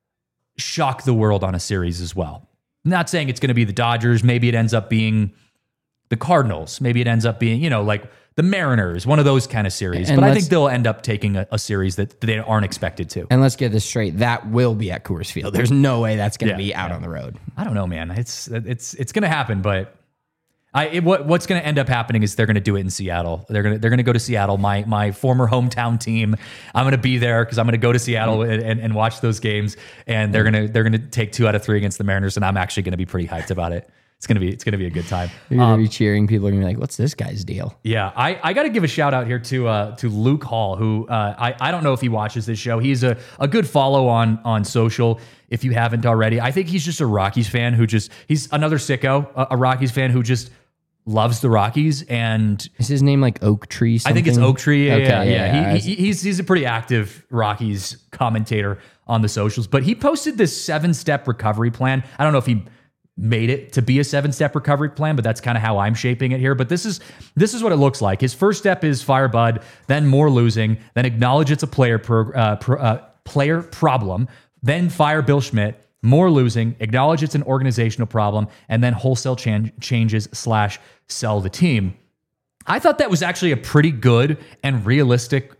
shock the world on a series as well. I'm not saying it's going to be the Dodgers. Maybe it ends up being the Cardinals. Maybe it ends up being, you know, like the Mariners, one of those kind of series. And but I think they'll end up taking a, a series that they aren't expected to. And let's get this straight. That will be at Coors Field. There's no way that's going to Yeah, be out yeah. on the road. I don't know, man. It's it's it's going to happen, but I it, what what's going to end up happening is they're going to do it in Seattle. They're going to they're going to go to Seattle, my my former hometown team. I'm going to be there because I'm going to go to Seattle and, and, and watch those games. And they're going to they're going to take two out of three against the Mariners, and I'm actually going to be pretty hyped about it. It's gonna be it's gonna be a good time. You're going to be cheering. People are going to be like, what's this guy's deal? Yeah, I, I got to give a shout out here to uh, to Luke Hall, who uh, I I don't know if he watches this show. He's a, a good follow on on social if you haven't already. I think he's just a Rockies fan who just he's another sicko, a, a Rockies fan who just loves the Rockies. And Is his name like Oak Tree something? I think it's Oak Tree. Yeah, Okay, yeah, yeah. yeah. He, he, he's he's a pretty active Rockies commentator on the socials. But he posted this seven step recovery plan. I don't know if he made it to be a seven-step recovery plan, but that's kind of how I'm shaping it here. But this is this is what it looks like. His first step is fire Bud, then more losing, then acknowledge it's a player pro, uh, pro, uh, player problem, then fire Bill Schmidt, more losing, acknowledge it's an organizational problem, and then wholesale chan- changes slash sell the team. I thought that was actually a pretty good and realistic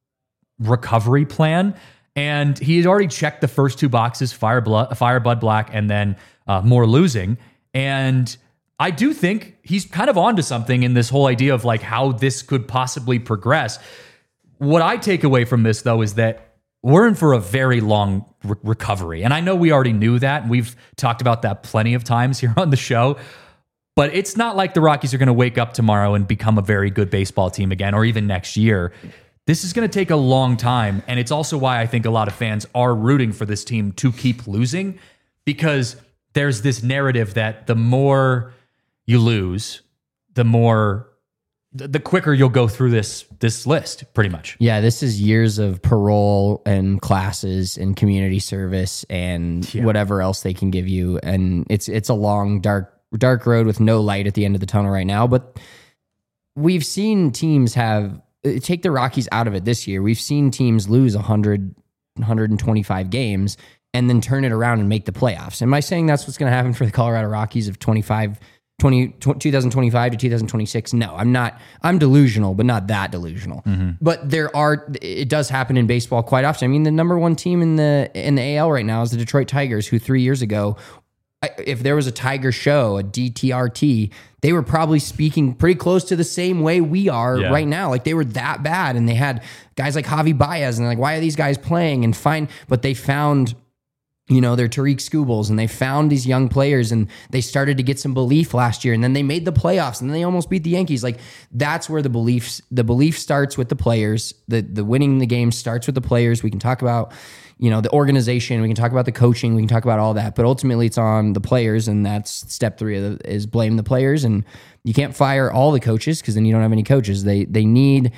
recovery plan. And he had already checked the first two boxes, fire, blood, fire Bud Black, and then uh, more losing. And I do think he's kind of onto something in this whole idea of like how this could possibly progress. What I take away from this, though, is that we're in for a very long re- recovery. And I know we already knew that. And we've talked about that plenty of times here on the show. But it's not like the Rockies are going to wake up tomorrow and become a very good baseball team again, or even next year. This is going to take a long time, and it's also why I think a lot of fans are rooting for this team to keep losing, because there's this narrative that the more you lose, the more, the quicker you'll go through this this list, pretty much. Yeah, this is years of parole and classes and community service and Yeah. whatever else they can give you, and it's it's a long, dark, dark road with no light at the end of the tunnel right now. But we've seen teams have. Take the Rockies out of it this year. We've seen teams lose one hundred, one hundred twenty-five games and then turn it around and make the playoffs. Am I saying that's what's going to happen for the Colorado Rockies of twenty-five, twenty, twenty twenty-five to two thousand twenty-six? No, I'm not. I'm delusional, but not that delusional. Mm-hmm. But there are, it does happen in baseball quite often. I mean, the number one team in the in the A L right now is the Detroit Tigers, who three years ago I- if there was a Tiger show, a D T R T, they were probably speaking pretty close to the same way we are Yeah. right now. Like they were that bad, and they had guys like Javi Baez, and they're like, why are these guys playing? And fine, but they found, you know, their Tariq Skubals, and they found these young players, and they started to get some belief last year, and then they made the playoffs, and then they almost beat the Yankees. Like that's where the beliefs, the belief starts with the players. The the winning the game starts with the players. We can talk about, you know, the organization. We can talk about the coaching. We can talk about all that, but ultimately it's on the players, and that's step three of the, is blame the players. And you can't fire all the coaches because then you don't have any coaches. They they need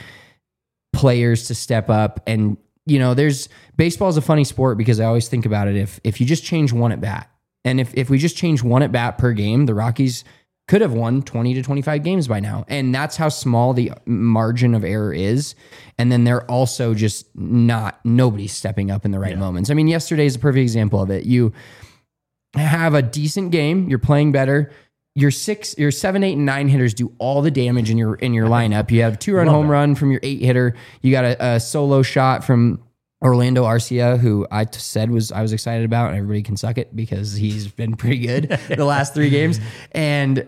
players to step up. And you know, there's baseball is a funny sport because I always think about it. If if you just change one at bat, and if if we just change one at bat per game, the Rockies could have won twenty to twenty-five games by now. And that's how small the margin of error is. And then they're also just not, nobody's stepping up in the right Yeah. moments. I mean, yesterday is a perfect example of it. You have a decent game, you're playing better. Your six, your seven, eight, and nine hitters do all the damage in your in your lineup. You have two run Love home that. run from your eight hitter. You got a, a solo shot from Orlando Arcia, who I t- said was I was excited about, and everybody can suck it because he's been pretty good the last three games. And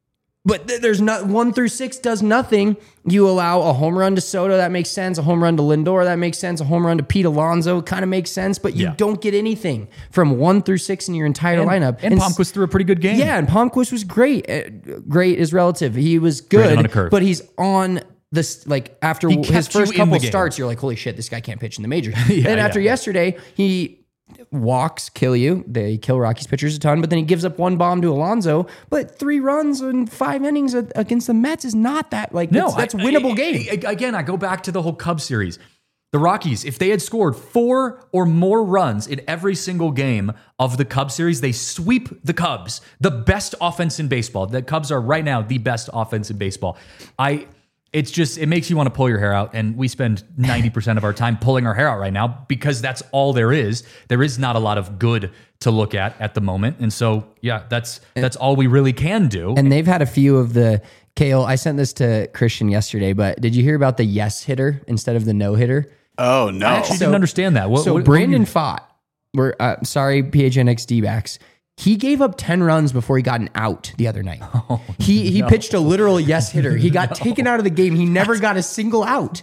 but th- there's not one through six does nothing. You allow a home run to Soto, that makes sense. A home run to Lindor, that makes sense. A home run to Pete Alonso kind of makes sense. But you Yeah. don't get anything from one through six in your entire And, lineup. and s- Palmquist threw a pretty good game. yeah, and Palmquist was great. Uh, Great is relative. He was Graded good, on a curve. but he's on this like after He his kept you first in couple the game. starts, you're like, holy shit, this guy can't pitch in the majors. Yeah, then after yeah. yesterday, he walks, kill you. They kill Rockies pitchers a ton, but then he gives up one bomb to Alonso. But three runs in five innings a- against the Mets is not that like No, that's, that's I- winnable I- game. I- Again, I go back to the whole Cubs series. The Rockies, if they had scored four or more runs in every single game of the Cubs series, they sweep the Cubs, the best offense in baseball. The Cubs are right now the best offense in baseball. I, it's just, it makes you want to pull your hair out. And we spend ninety percent of our time pulling our hair out right now because that's all there is. There is not a lot of good to look at at the moment. And so, yeah, that's, that's all we really can do. And they've had a few of the Kale. I sent this to Christian yesterday, but did you hear about the yes hitter instead of the no hitter? Oh no! I actually didn't understand that. What, so what- Brandon Pfaadt, we're uh, sorry, P H N X D-backs. He gave up ten runs before he got an out the other night. Oh, he he pitched a literal yes hitter. He got taken out of the game. He never got a single out.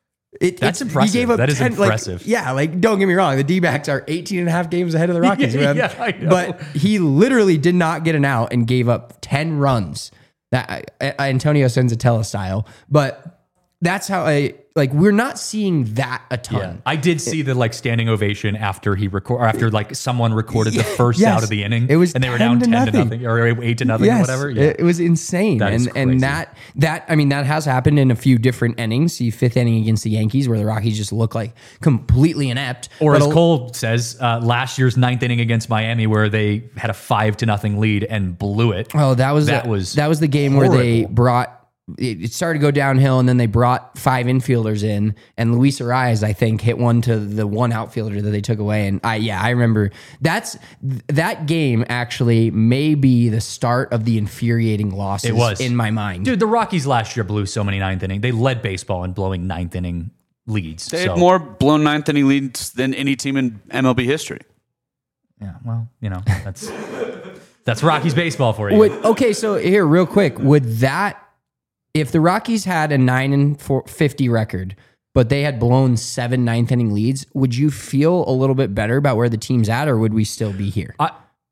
It, That's it's- impressive. He gave up That is ten, like, impressive. yeah, like don't get me wrong. The D-backs are eighteen and a half games ahead of the Rockies. Yeah, man. yeah, I know. But he literally did not get an out and gave up ten runs. That uh, Antonio Senzatella style. But that's how I like. We're not seeing that a ton. Yeah. I did see the like standing ovation after he record, or after like someone recorded the first Yes. out of the inning. It was and they were ten down to ten to nothing. nothing or eight to nothing or whatever. Yeah. It, it was insane. That is and crazy. and that that I mean that has happened in a few different innings. The fifth inning against the Yankees where the Rockies just look like completely inept. Or But as a- Cole says, uh, last year's ninth inning against Miami, where they had a five to nothing lead and blew it. Oh, that was That the- was that was the game where they horrible. brought it it started to go downhill, and then they brought five infielders in, and Luis Arias, I think, hit one to the one outfielder that they took away. And I, yeah, I remember that's that game actually may be the start of the infuriating losses It was. in my mind. Dude, the Rockies last year blew so many ninth inning. They led baseball in blowing ninth inning leads. They so, had more blown ninth inning leads than any team in M L B history. Yeah, well, you know, that's that's Rockies baseball for you. Would, okay, so here, real quick, would that if the Rockies had a nine and four, fifty record, but they had blown seven ninth inning leads, would you feel a little bit better about where the team's at, or would we still be here? I,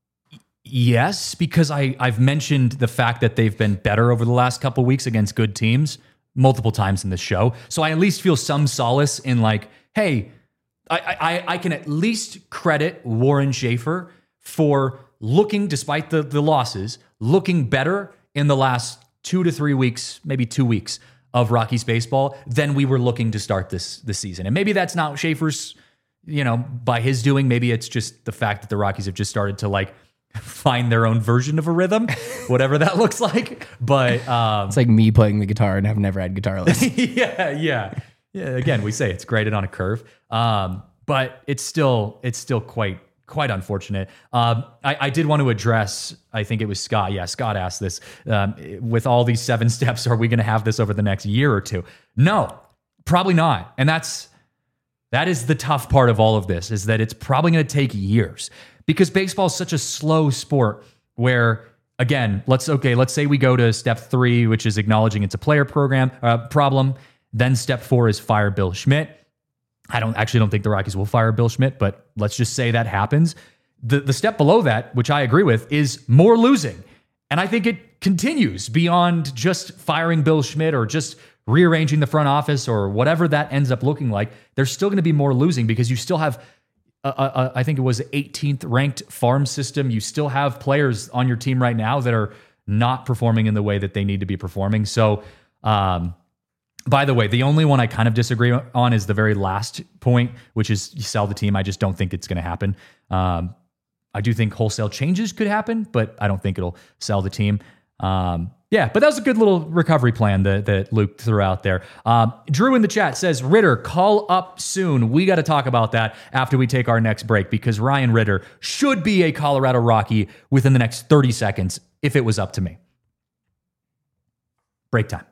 yes, because I, I've mentioned the fact that they've been better over the last couple weeks against good teams multiple times in this show. So I at least feel some solace in like, hey, I, I, I can at least credit Warren Schaefer for looking, despite the, the losses, looking better in the last two to three weeks, maybe two weeks of Rockies baseball than we were looking to start this this season. And maybe that's not Schaefer's, you know, by his doing. Maybe it's just the fact that the Rockies have just started to like find their own version of a rhythm, whatever that looks like. But um, It's like me playing the guitar and I've never had guitar lessons. yeah, yeah, yeah. Again, we say it's graded on a curve, um, but it's still it's still quite quite unfortunate. Um, I, I did want to address. I think it was Scott. Yeah, Scott asked this. Um, with all these seven steps, are we going to have this over the next year or two? No, probably not. And that's that is the tough part of all of this, is that it's probably going to take years. because baseball is such a slow sport where, again, let's okay, let's say we go to step three, which is acknowledging it's a player program uh, problem. Then step four is fire Bill Schmidt. I don't actually don't think the Rockies will fire Bill Schmidt, but let's just say that happens. The the step below that, which I agree with, is more losing. And I think it continues beyond just firing Bill Schmidt or just rearranging the front office or whatever that ends up looking like. There's still going to be more losing because you still have, a, a, I think it was eighteenth ranked farm system. You still have players on your team right now that are not performing in the way that they need to be performing. So, um, by the way, the only one I kind of disagree on is the very last point, which is you sell the team. I just don't think it's going to happen. Um, I do think wholesale changes could happen, but I don't think it'll sell the team. Um, yeah, but that was a good little recovery plan that, that Luke threw out there. Um, Drew in the chat says, Ritter, call up soon. We got to talk about that after we take our next break because Ryan Ritter should be a Colorado Rocky within the next thirty seconds if it was up to me. Break time.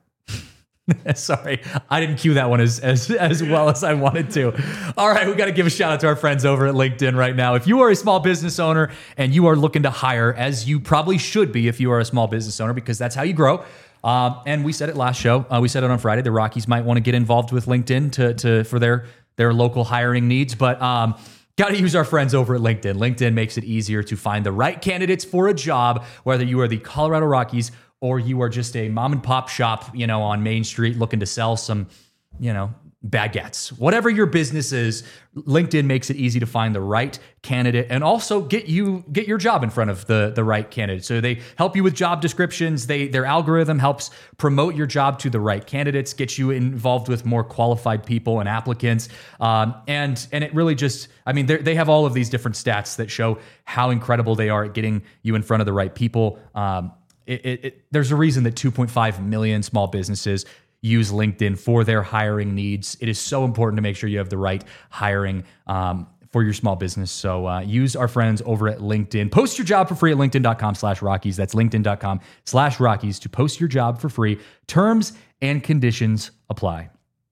Sorry, I didn't cue that one as, as as well as I wanted to. All right, we got to give a shout out to our friends over at LinkedIn right now. If you are a small business owner and you are looking to hire, as you probably should be if you are a small business owner, because that's how you grow. Um, and we said it last show. Uh, we said it on Friday. The Rockies might want to get involved with LinkedIn to to for their their local hiring needs, but um, got to use our friends over at LinkedIn. LinkedIn makes it easier to find the right candidates for a job, whether you are the Colorado Rockies or you are just a mom and pop shop, you know, on Main Street looking to sell some, you know, baguettes. Whatever your business is, LinkedIn makes it easy to find the right candidate and also get you get your job in front of the the right candidate. So they help you with job descriptions. They their algorithm helps promote your job to the right candidates, get you involved with more qualified people and applicants. Um, and and it really just, I mean, they have all of these different stats that show how incredible they are at getting you in front of the right people. Um, It, it, it, there's a reason that two point five million small businesses use LinkedIn for their hiring needs. It is so important to make sure you have the right hiring um, for your small business. So uh, use our friends over at LinkedIn. Post your job for free at linkedin.com slash Rockies. That's linkedin.com slash Rockies to post your job for free. Terms and conditions apply.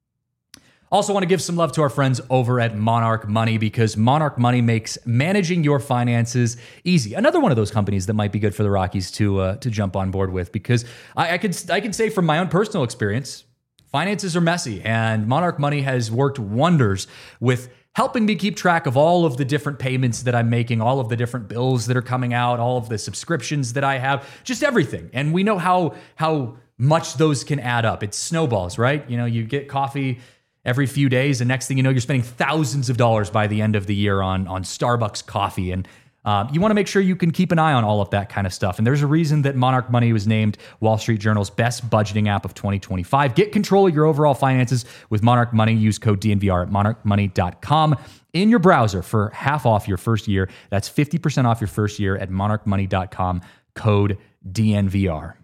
Also want to give some love to our friends over at Monarch Money because Monarch Money makes managing your finances easy. Another one of those companies that might be good for the Rockies to uh, to jump on board with because I, I could I could say from my own personal experience, finances are messy and Monarch Money has worked wonders with helping me keep track of all of the different payments that I'm making, all of the different bills that are coming out, all of the subscriptions that I have, just everything. And we know how how much those can add up. It's snowballs, right? You know, you get coffee every few days, and next thing you know, you're spending thousands of dollars by the end of the year on, on Starbucks coffee. And um, you want to make sure you can keep an eye on all of that kind of stuff. And there's a reason that Monarch Money was named Wall Street Journal's best budgeting app of twenty twenty-five. Get control of your overall finances with Monarch Money. Use code D N V R at monarch money dot com in your browser for half off your first year. That's fifty percent off your first year at monarch money dot com, code D N V R.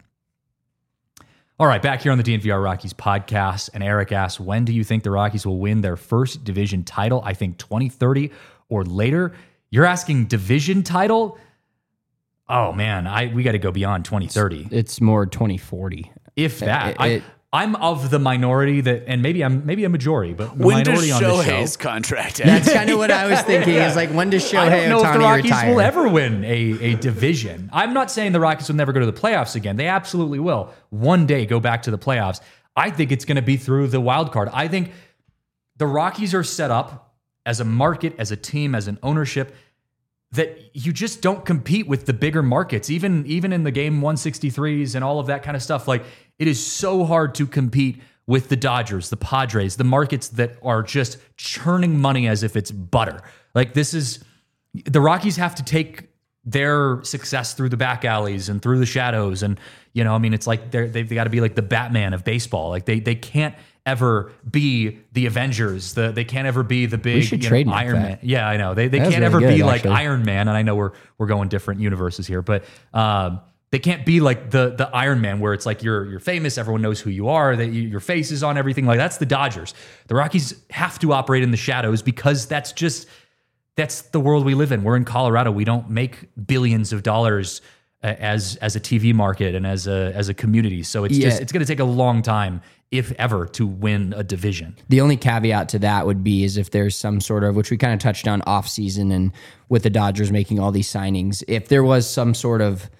All right, back here on the D N V R Rockies podcast, and Eric asks, when do you think the Rockies will win their first division title? I think twenty thirty or later. You're asking division title? Oh, man, I we got to go beyond twenty thirty. It's more twenty forty. If that. It, I, it, I'm of the minority that, and maybe I'm maybe a majority, but the when minority does on this Shohei's show. contract end? That's kind of what I was thinking. Is like, when does Shohei I don't know Ohtani if the Rockies retire? will ever win a, a division. I'm not saying the Rockies will never go to the playoffs again. They absolutely will. One day go back to the playoffs. I think it's going to be through the wild card. I think the Rockies are set up as a market, as a team, as an ownership that you just don't compete with the bigger markets, even, even in the game one sixty-threes and all of that kind of stuff. Like, it is so hard to compete with the Dodgers, the Padres, the markets that are just churning money as if it's butter. Like, this is, the Rockies have to take their success through the back alleys and through the shadows. And, you know, I mean, it's like they're, they've got to be like the Batman of baseball. Like, they they can't ever be the Avengers. The, they can't ever be the big We should you know, trademark Iron that. Man. Yeah, I know. They they That was can't really ever good, be actually. like Iron Man. And I know we're we're going different universes here, but um, they can't be like the the Iron Man where it's like you're you're famous, everyone knows who you are, that you, your face is on everything. Like, that's the Dodgers. The Rockies have to operate in the shadows because that's just that's the world we live in. We're in Colorado. We don't make billions of dollars as as a T V market and as a as a community. So it's Yeah. just it's going to take a long time, if ever, to win a division. The only caveat to that would be is if there's some sort of, which we kind of touched on off season and with the Dodgers making all these signings, if there was some sort of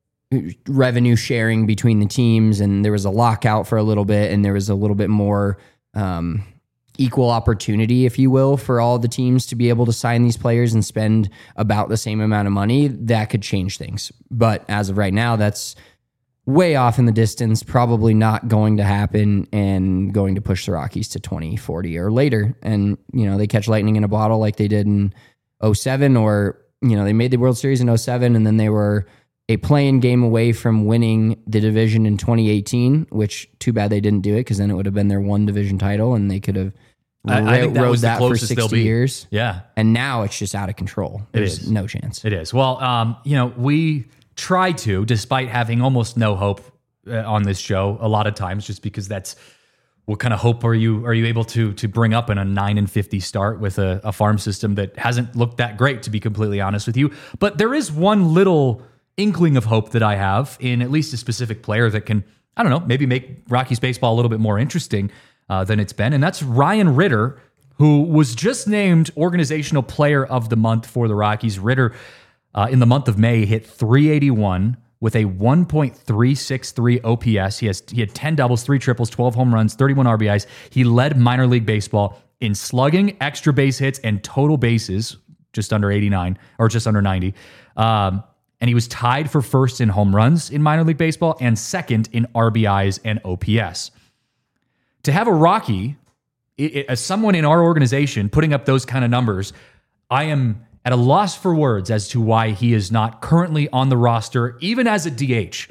revenue sharing between the teams and there was a lockout for a little bit and there was a little bit more um, equal opportunity, if you will, for all the teams to be able to sign these players and spend about the same amount of money, that could change things. But as of right now, that's way off in the distance, probably not going to happen and going to push the Rockies to twenty forty or later. And, you know, they catch lightning in a bottle like they did in oh seven, or, you know, they made the World Series in oh seven and then they were a play-in game away from winning the division in twenty eighteen, which too bad they didn't do it because then it would have been their one division title and they could have I, I think that rode was the that for closest they'll sixty be. years. Yeah. And now it's just out of control. There's is. no chance. It is. Well, um, you know, we try to, despite having almost no hope uh, on this show a lot of times, just because that's what kind of hope are you are you able to to bring up in a nine and fifty start with a, a farm system that hasn't looked that great, to be completely honest with you. But there is one little inkling of hope that I have in at least a specific player that can, I don't know, maybe make Rockies baseball a little bit more interesting uh, than it's been, and that's Ryan Ritter, who was just named Organizational Player of the Month for the Rockies. Ritter, uh, in the month of May, hit three eighty-one with a one point three six three O P S. He has he had ten doubles, three triples, twelve home runs, thirty-one R B Is. He led minor league baseball in slugging, extra base hits, and total bases, just under eighty-nine or just under ninety. Um, and he was tied for first in home runs in minor league baseball and second in R B Is and O P S. To have a Rocky, it, it, as someone in our organization putting up those kind of numbers, I am at a loss for words as to why he is not currently on the roster, even as a D H,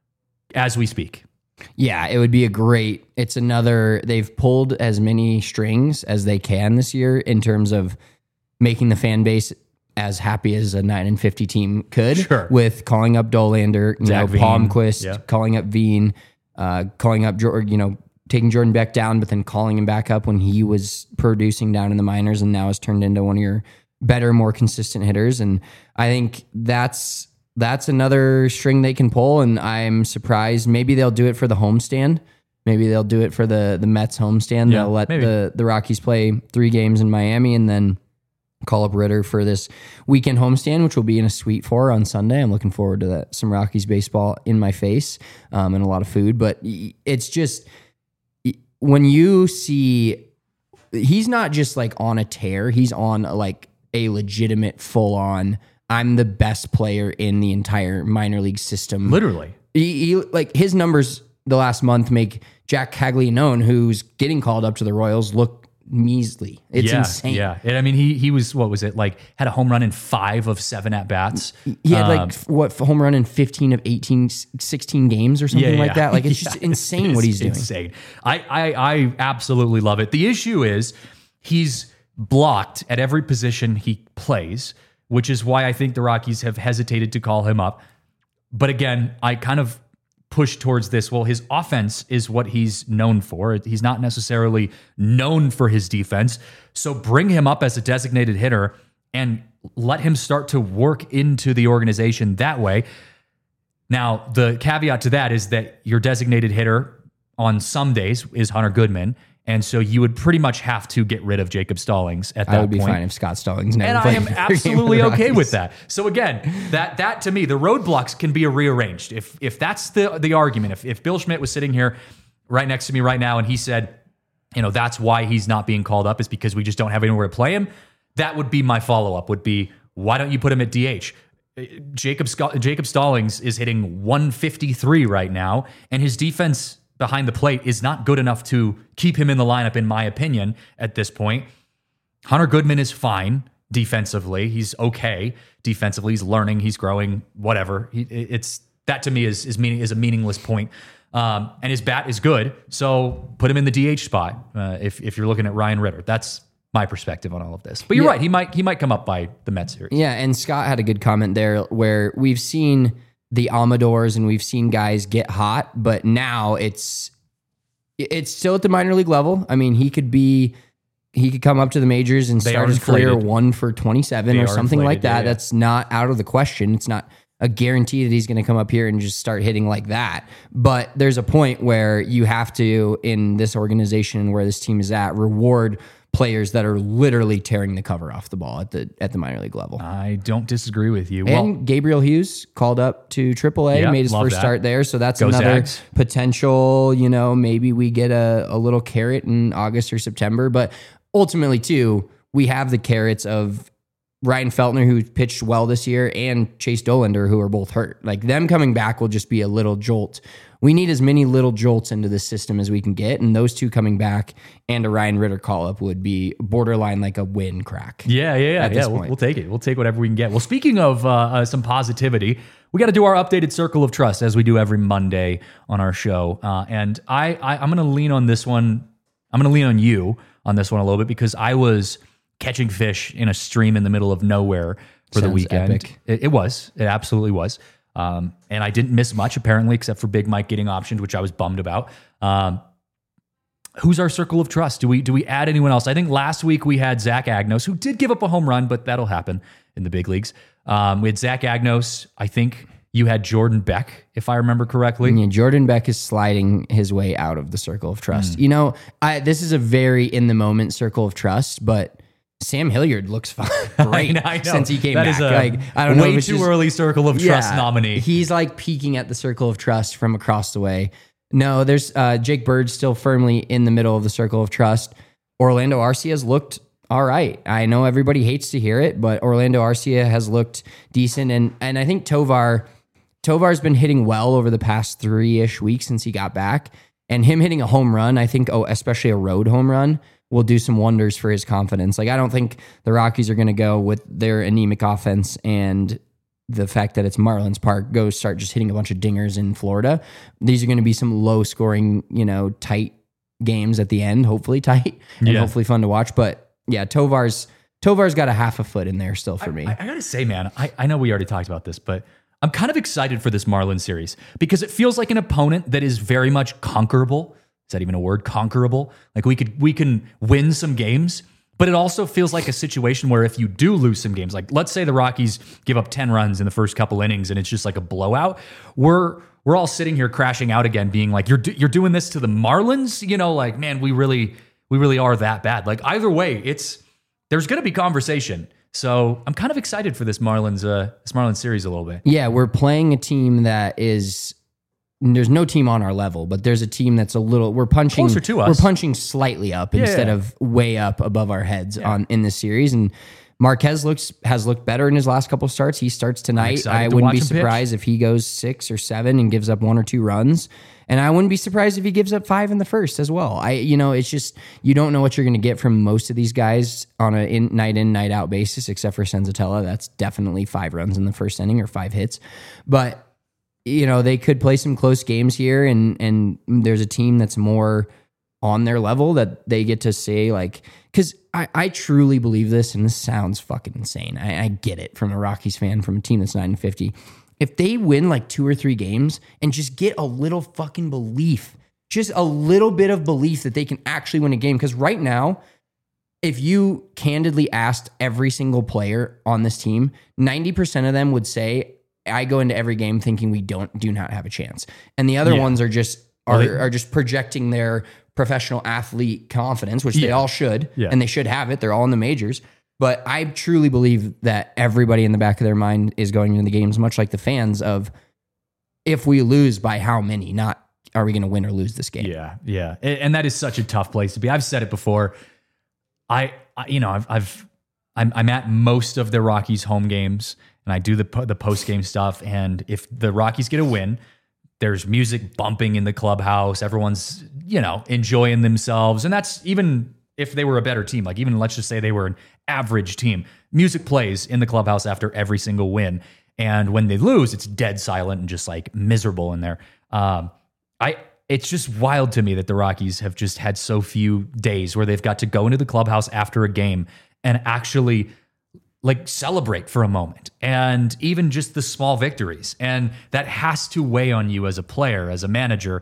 as we speak. Yeah, it would be a great, it's another, they've pulled as many strings as they can this year in terms of making the fan base as happy as a nine and fifty team could, Sure. with calling up Dolander, you Zach know, Veen. Palmquist, Yeah. calling up Veen, uh, calling up, Jor- you know, taking Jordan Beck down, but then calling him back up when he was producing down in the minors and now has turned into one of your better, more consistent hitters. And I think that's that's another string they can pull. And I'm surprised. Maybe they'll do it for the homestand. Maybe they'll do it for the the Mets homestand. Yeah, they'll let maybe. the the Rockies play three games in Miami and then call up Ritter for this weekend homestand, which will be in a Sweet Four on Sunday. I'm looking forward to that. Some Rockies baseball in my face um, and a lot of food. But it's just when you see, he's not just like on a tear. He's on like a legitimate full on, I'm the best player in the entire minor league system. Literally. He, he like his numbers the last month make Jack Caglianone, who's getting called up to the Royals, look measly. It's yeah, insane. Yeah. And I mean, he he was, what was it, like had a home run in five of seven at-bats. He had Um, like f- what home run in fifteen of eighteen, sixteen games or something Yeah, like yeah. that. Like it's Yeah, just insane it's what he's doing. Insane. I, I I absolutely love it. The issue is he's blocked at every position he plays, which is why I think the Rockies have hesitated to call him up. But again, I kind of push towards this. Well, his offense is what he's known for. He's not necessarily known for his defense. So bring him up as a designated hitter and let him start to work into the organization that way. Now, the caveat to that is that your designated hitter on some days is Hunter Goodman. And so you would pretty much have to get rid of Jacob Stallings at that I would be point. fine if Scott Stallings never And I played am another game for absolutely the okay Rockies. with that. So again, that that to me, the roadblocks can be rearranged. If if that's the the argument, if if Bill Schmidt was sitting here right next to me right now and he said, you know, that's why he's not being called up is because we just don't have anywhere to play him, that would be my follow-up, would be, why don't you put him at D H? Jacob Sc- Jacob Stallings is hitting one fifty-three right now, and his defense behind the plate is not good enough to keep him in the lineup, in my opinion, at this point. Hunter Goodman is fine defensively. He's okay defensively. He's learning. He's growing. Whatever. He, it's that to me is is meaning is a meaningless point. Um, and his bat is good, so put him in the D H spot uh, if if you're looking at Ryan Ritter. That's my perspective on all of this. But you're Yeah. right. He might he might come up by the Mets series. Yeah, and Scott had a good comment there where we've seen the Amadors and we've seen guys get hot, but now it's it's still at the minor league level. I mean, he could be he could come up to the majors and They start are his career inflated. one for twenty-seven They or are something like inflated, that. yeah, yeah. That's not out of the question. It's not a guarantee that he's going to come up here and just start hitting like that. But there's a point where you have to, in this organization where this team is at, reward players that are literally tearing the cover off the ball at the at the minor league level. I don't disagree with you. And Well, Gabriel Hughes called up to triple A, Yeah, made his love first that. start there. So that's Go another Zags. potential, you know, maybe we get a, a little carrot in August or September. But ultimately, too, we have the carrots of Ryan Feltner, who pitched well this year, and Chase Dolander, who are both hurt. Like, them coming back will just be a little jolt. We need as many little jolts into this system as we can get, and those two coming back and a Ryan Ritter call-up would be borderline like a win crack. yeah, yeah, yeah. at yeah this we'll, point. we'll take it. We'll take whatever we can get. Well, speaking of uh, uh, some positivity, we got to do our updated circle of trust as we do every Monday on our show. Uh, and I, I, I'm going to lean on this one. I'm going to lean on you on this one a little bit because I was catching fish in a stream in the middle of nowhere for the Sounds weekend. epic. It, it was. It absolutely was. Um, and I didn't miss much, apparently, except for Big Mike getting optioned, which I was bummed about. Um, who's our circle of trust? Do we do we add anyone else? I think last week we had Zach Agnos, who did give up a home run, but that'll happen in the big leagues. Um, we had Zach Agnos. I think you had Jordan Beck, if I remember correctly. Yeah, Jordan Beck is sliding his way out of the circle of Hmm. trust. You know, I, this is a very in the moment circle of trust, but Sam Hilliard looks fine, great know, I know. since he came That back. is a like, I don't know way if it's too just- early circle of trust Yeah, nominee. He's like peeking at the circle of trust from across the way. No, there's uh, Jake Bird still firmly in the middle of the circle of trust. Orlando Arcia has looked all right. I know everybody hates to hear it, but Orlando Arcia has looked decent, and and I think Tovar Tovar's been hitting well over the past three-ish weeks since he got back. And him hitting a home run, I think, oh, especially a road home run, will do some wonders for his confidence. Like, I don't think the Rockies are going to go with their anemic offense and the fact that it's Marlins Park, go start just hitting a bunch of dingers in Florida. These are going to be some low-scoring, you know, tight games at the end, hopefully tight, and Yeah. hopefully fun to watch. But yeah, Tovar's Tovar's got a half a foot in there still for me. I, I gotta say, man, I, I know we already talked about this, but I'm kind of excited for this Marlins series because it feels like an opponent that is very much conquerable. Is that even a word? Conquerable? Like we could we can win some games, but it also feels like a situation where if you do lose some games, like let's say the Rockies give up ten runs in the first couple innings and it's just like a blowout, we're we're all sitting here crashing out again, being like, you're do, you're doing this to the Marlins, you know, like man, we really we really are that bad. Like either way, it's there's going to be conversation. So I'm kind of excited for this Marlins uh, this Marlins series a little bit. Yeah, we're playing a team that is. There's no team on our level, but there's a team that's a little. We're punching Closer to us. We're punching slightly up instead yeah. of way up above our heads on in this series. And Marquez looks has looked better in his last couple of starts. He starts tonight. excited I to wouldn't watch be him pitch. surprised if he goes six or seven and gives up one or two runs. And I wouldn't be surprised if he gives up five in the first as well. I, you know, it's just you don't know what you're going to get from most of these guys on a in, night in night out basis, except for Senzatella. That's definitely five runs in the first inning or five hits, but. You know, they could play some close games here, and and there's a team that's more on their level that they get to say, like, because I, I truly believe this, and this sounds fucking insane. I, I get it from a Rockies fan, from a team that's nine and fifty. If they win like two or three games and just get a little fucking belief, just a little bit of belief that they can actually win a game, because right now, if you candidly asked every single player on this team, ninety percent of them would say, I go into every game thinking we don't do not have a chance. And the other Yeah. ones are just are, Well, they- are just projecting their professional athlete confidence, which they Yeah. all should, Yeah. and they should have it. They're all in the majors. But I truly believe that everybody in the back of their mind is going into the games, much like the fans, of if we lose by how many, not are we going to win or lose this game. Yeah, yeah, and, and that is such a tough place to be. I've said it before. I, I you know, I've, I've I'm, I'm at most of the Rockies home games, and I do the po- the post game stuff. And if the Rockies get a win, there's music bumping in the clubhouse. Everyone's you know enjoying themselves, and that's even if they were a better team. Like even let's just say they were an average team. Music plays in the clubhouse after every single win, and when they lose, it's dead silent and just like miserable in there. Um, I. It's just wild to me that the Rockies have just had so few days where they've got to go into the clubhouse after a game and actually like celebrate for a moment, and even just the small victories. And that has to weigh on you as a player, as a manager,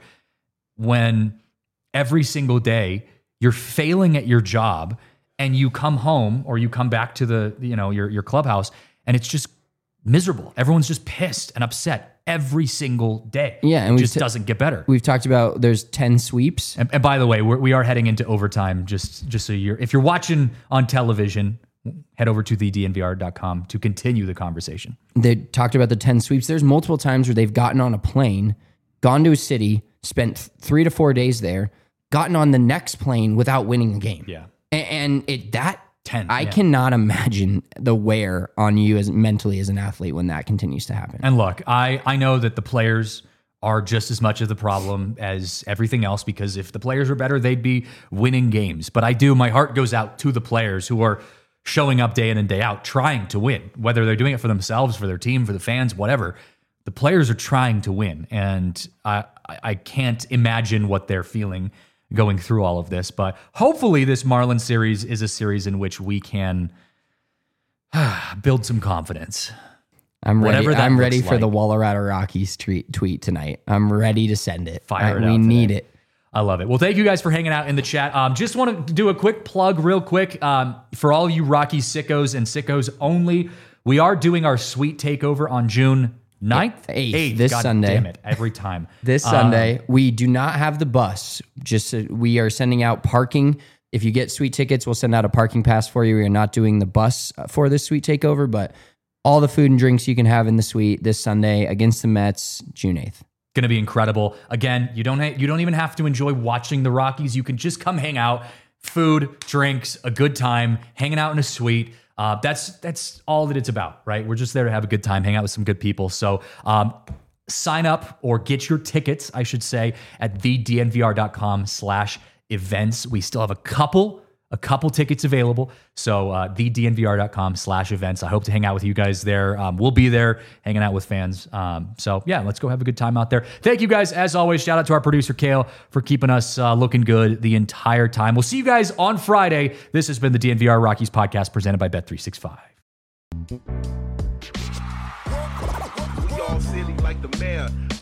when every single day you're failing at your job and you come home or you come back to the, you know, your, your clubhouse, and it's just miserable. Everyone's just pissed and upset every single day. Yeah, and it we've just t- doesn't get better. We've talked about there's ten sweeps. And, and by the way, we're, we are heading into overtime. Just just so you're, if you're watching on television, head over to the D N V R dot com to continue the conversation. They talked about the ten sweeps. There's multiple times where they've gotten on a plane, gone to a city, spent three to four days there, gotten on the next plane without winning a game. Yeah. And, and it that ten. I yeah. cannot imagine the wear on you as mentally as an athlete when that continues to happen. And look, I, I know that the players are just as much of the problem as everything else, because if the players were better, they'd be winning games. But I do, my heart goes out to the players who are showing up day in and day out, trying to win, whether they're doing it for themselves, for their team, for the fans, whatever. The players are trying to win. And I, I can't imagine what they're feeling going through all of this. But hopefully this Marlins series is a series in which we can build some confidence. I'm ready. Whatever that I'm ready looks for the like. Colorado Rockies tweet, tweet tonight. I'm ready to send it. Fire I- it we out need today. it. I love it. Well, thank you guys for hanging out in the chat. Um, just want to do a quick plug real quick. Um, for all you Rocky sickos and sickos only, we are doing our sweet takeover on June ninth, Eighth, this God Sunday. damn it, every time. This Um, Sunday, we do not have the bus. Just uh, we are sending out parking. If you get sweet tickets, we'll send out a parking pass for you. We are not doing the bus uh, for this sweet takeover, but all the food and drinks you can have in the suite this Sunday against the Mets, June eighth. Going to be incredible. Again, you don't ha- you don't even have to enjoy watching the Rockies. You can just come hang out, food, drinks, a good time, hanging out in a suite. Uh, that's that's all that it's about, right? We're just there to have a good time, hang out with some good people. So um, sign up or get your tickets, I should say, at the D N V R dot com slash events. We still have a couple a couple tickets available. So uh, the D N V R dot com slash events. I hope to hang out with you guys there. Um, we'll be there hanging out with fans. Um, so yeah, let's go have a good time out there. Thank you guys. As always, shout out to our producer, Kale, for keeping us uh, looking good the entire time. We'll see you guys on Friday. This has been the D N V R Rockies podcast presented by Bet three sixty-five. We all silly like the mayor.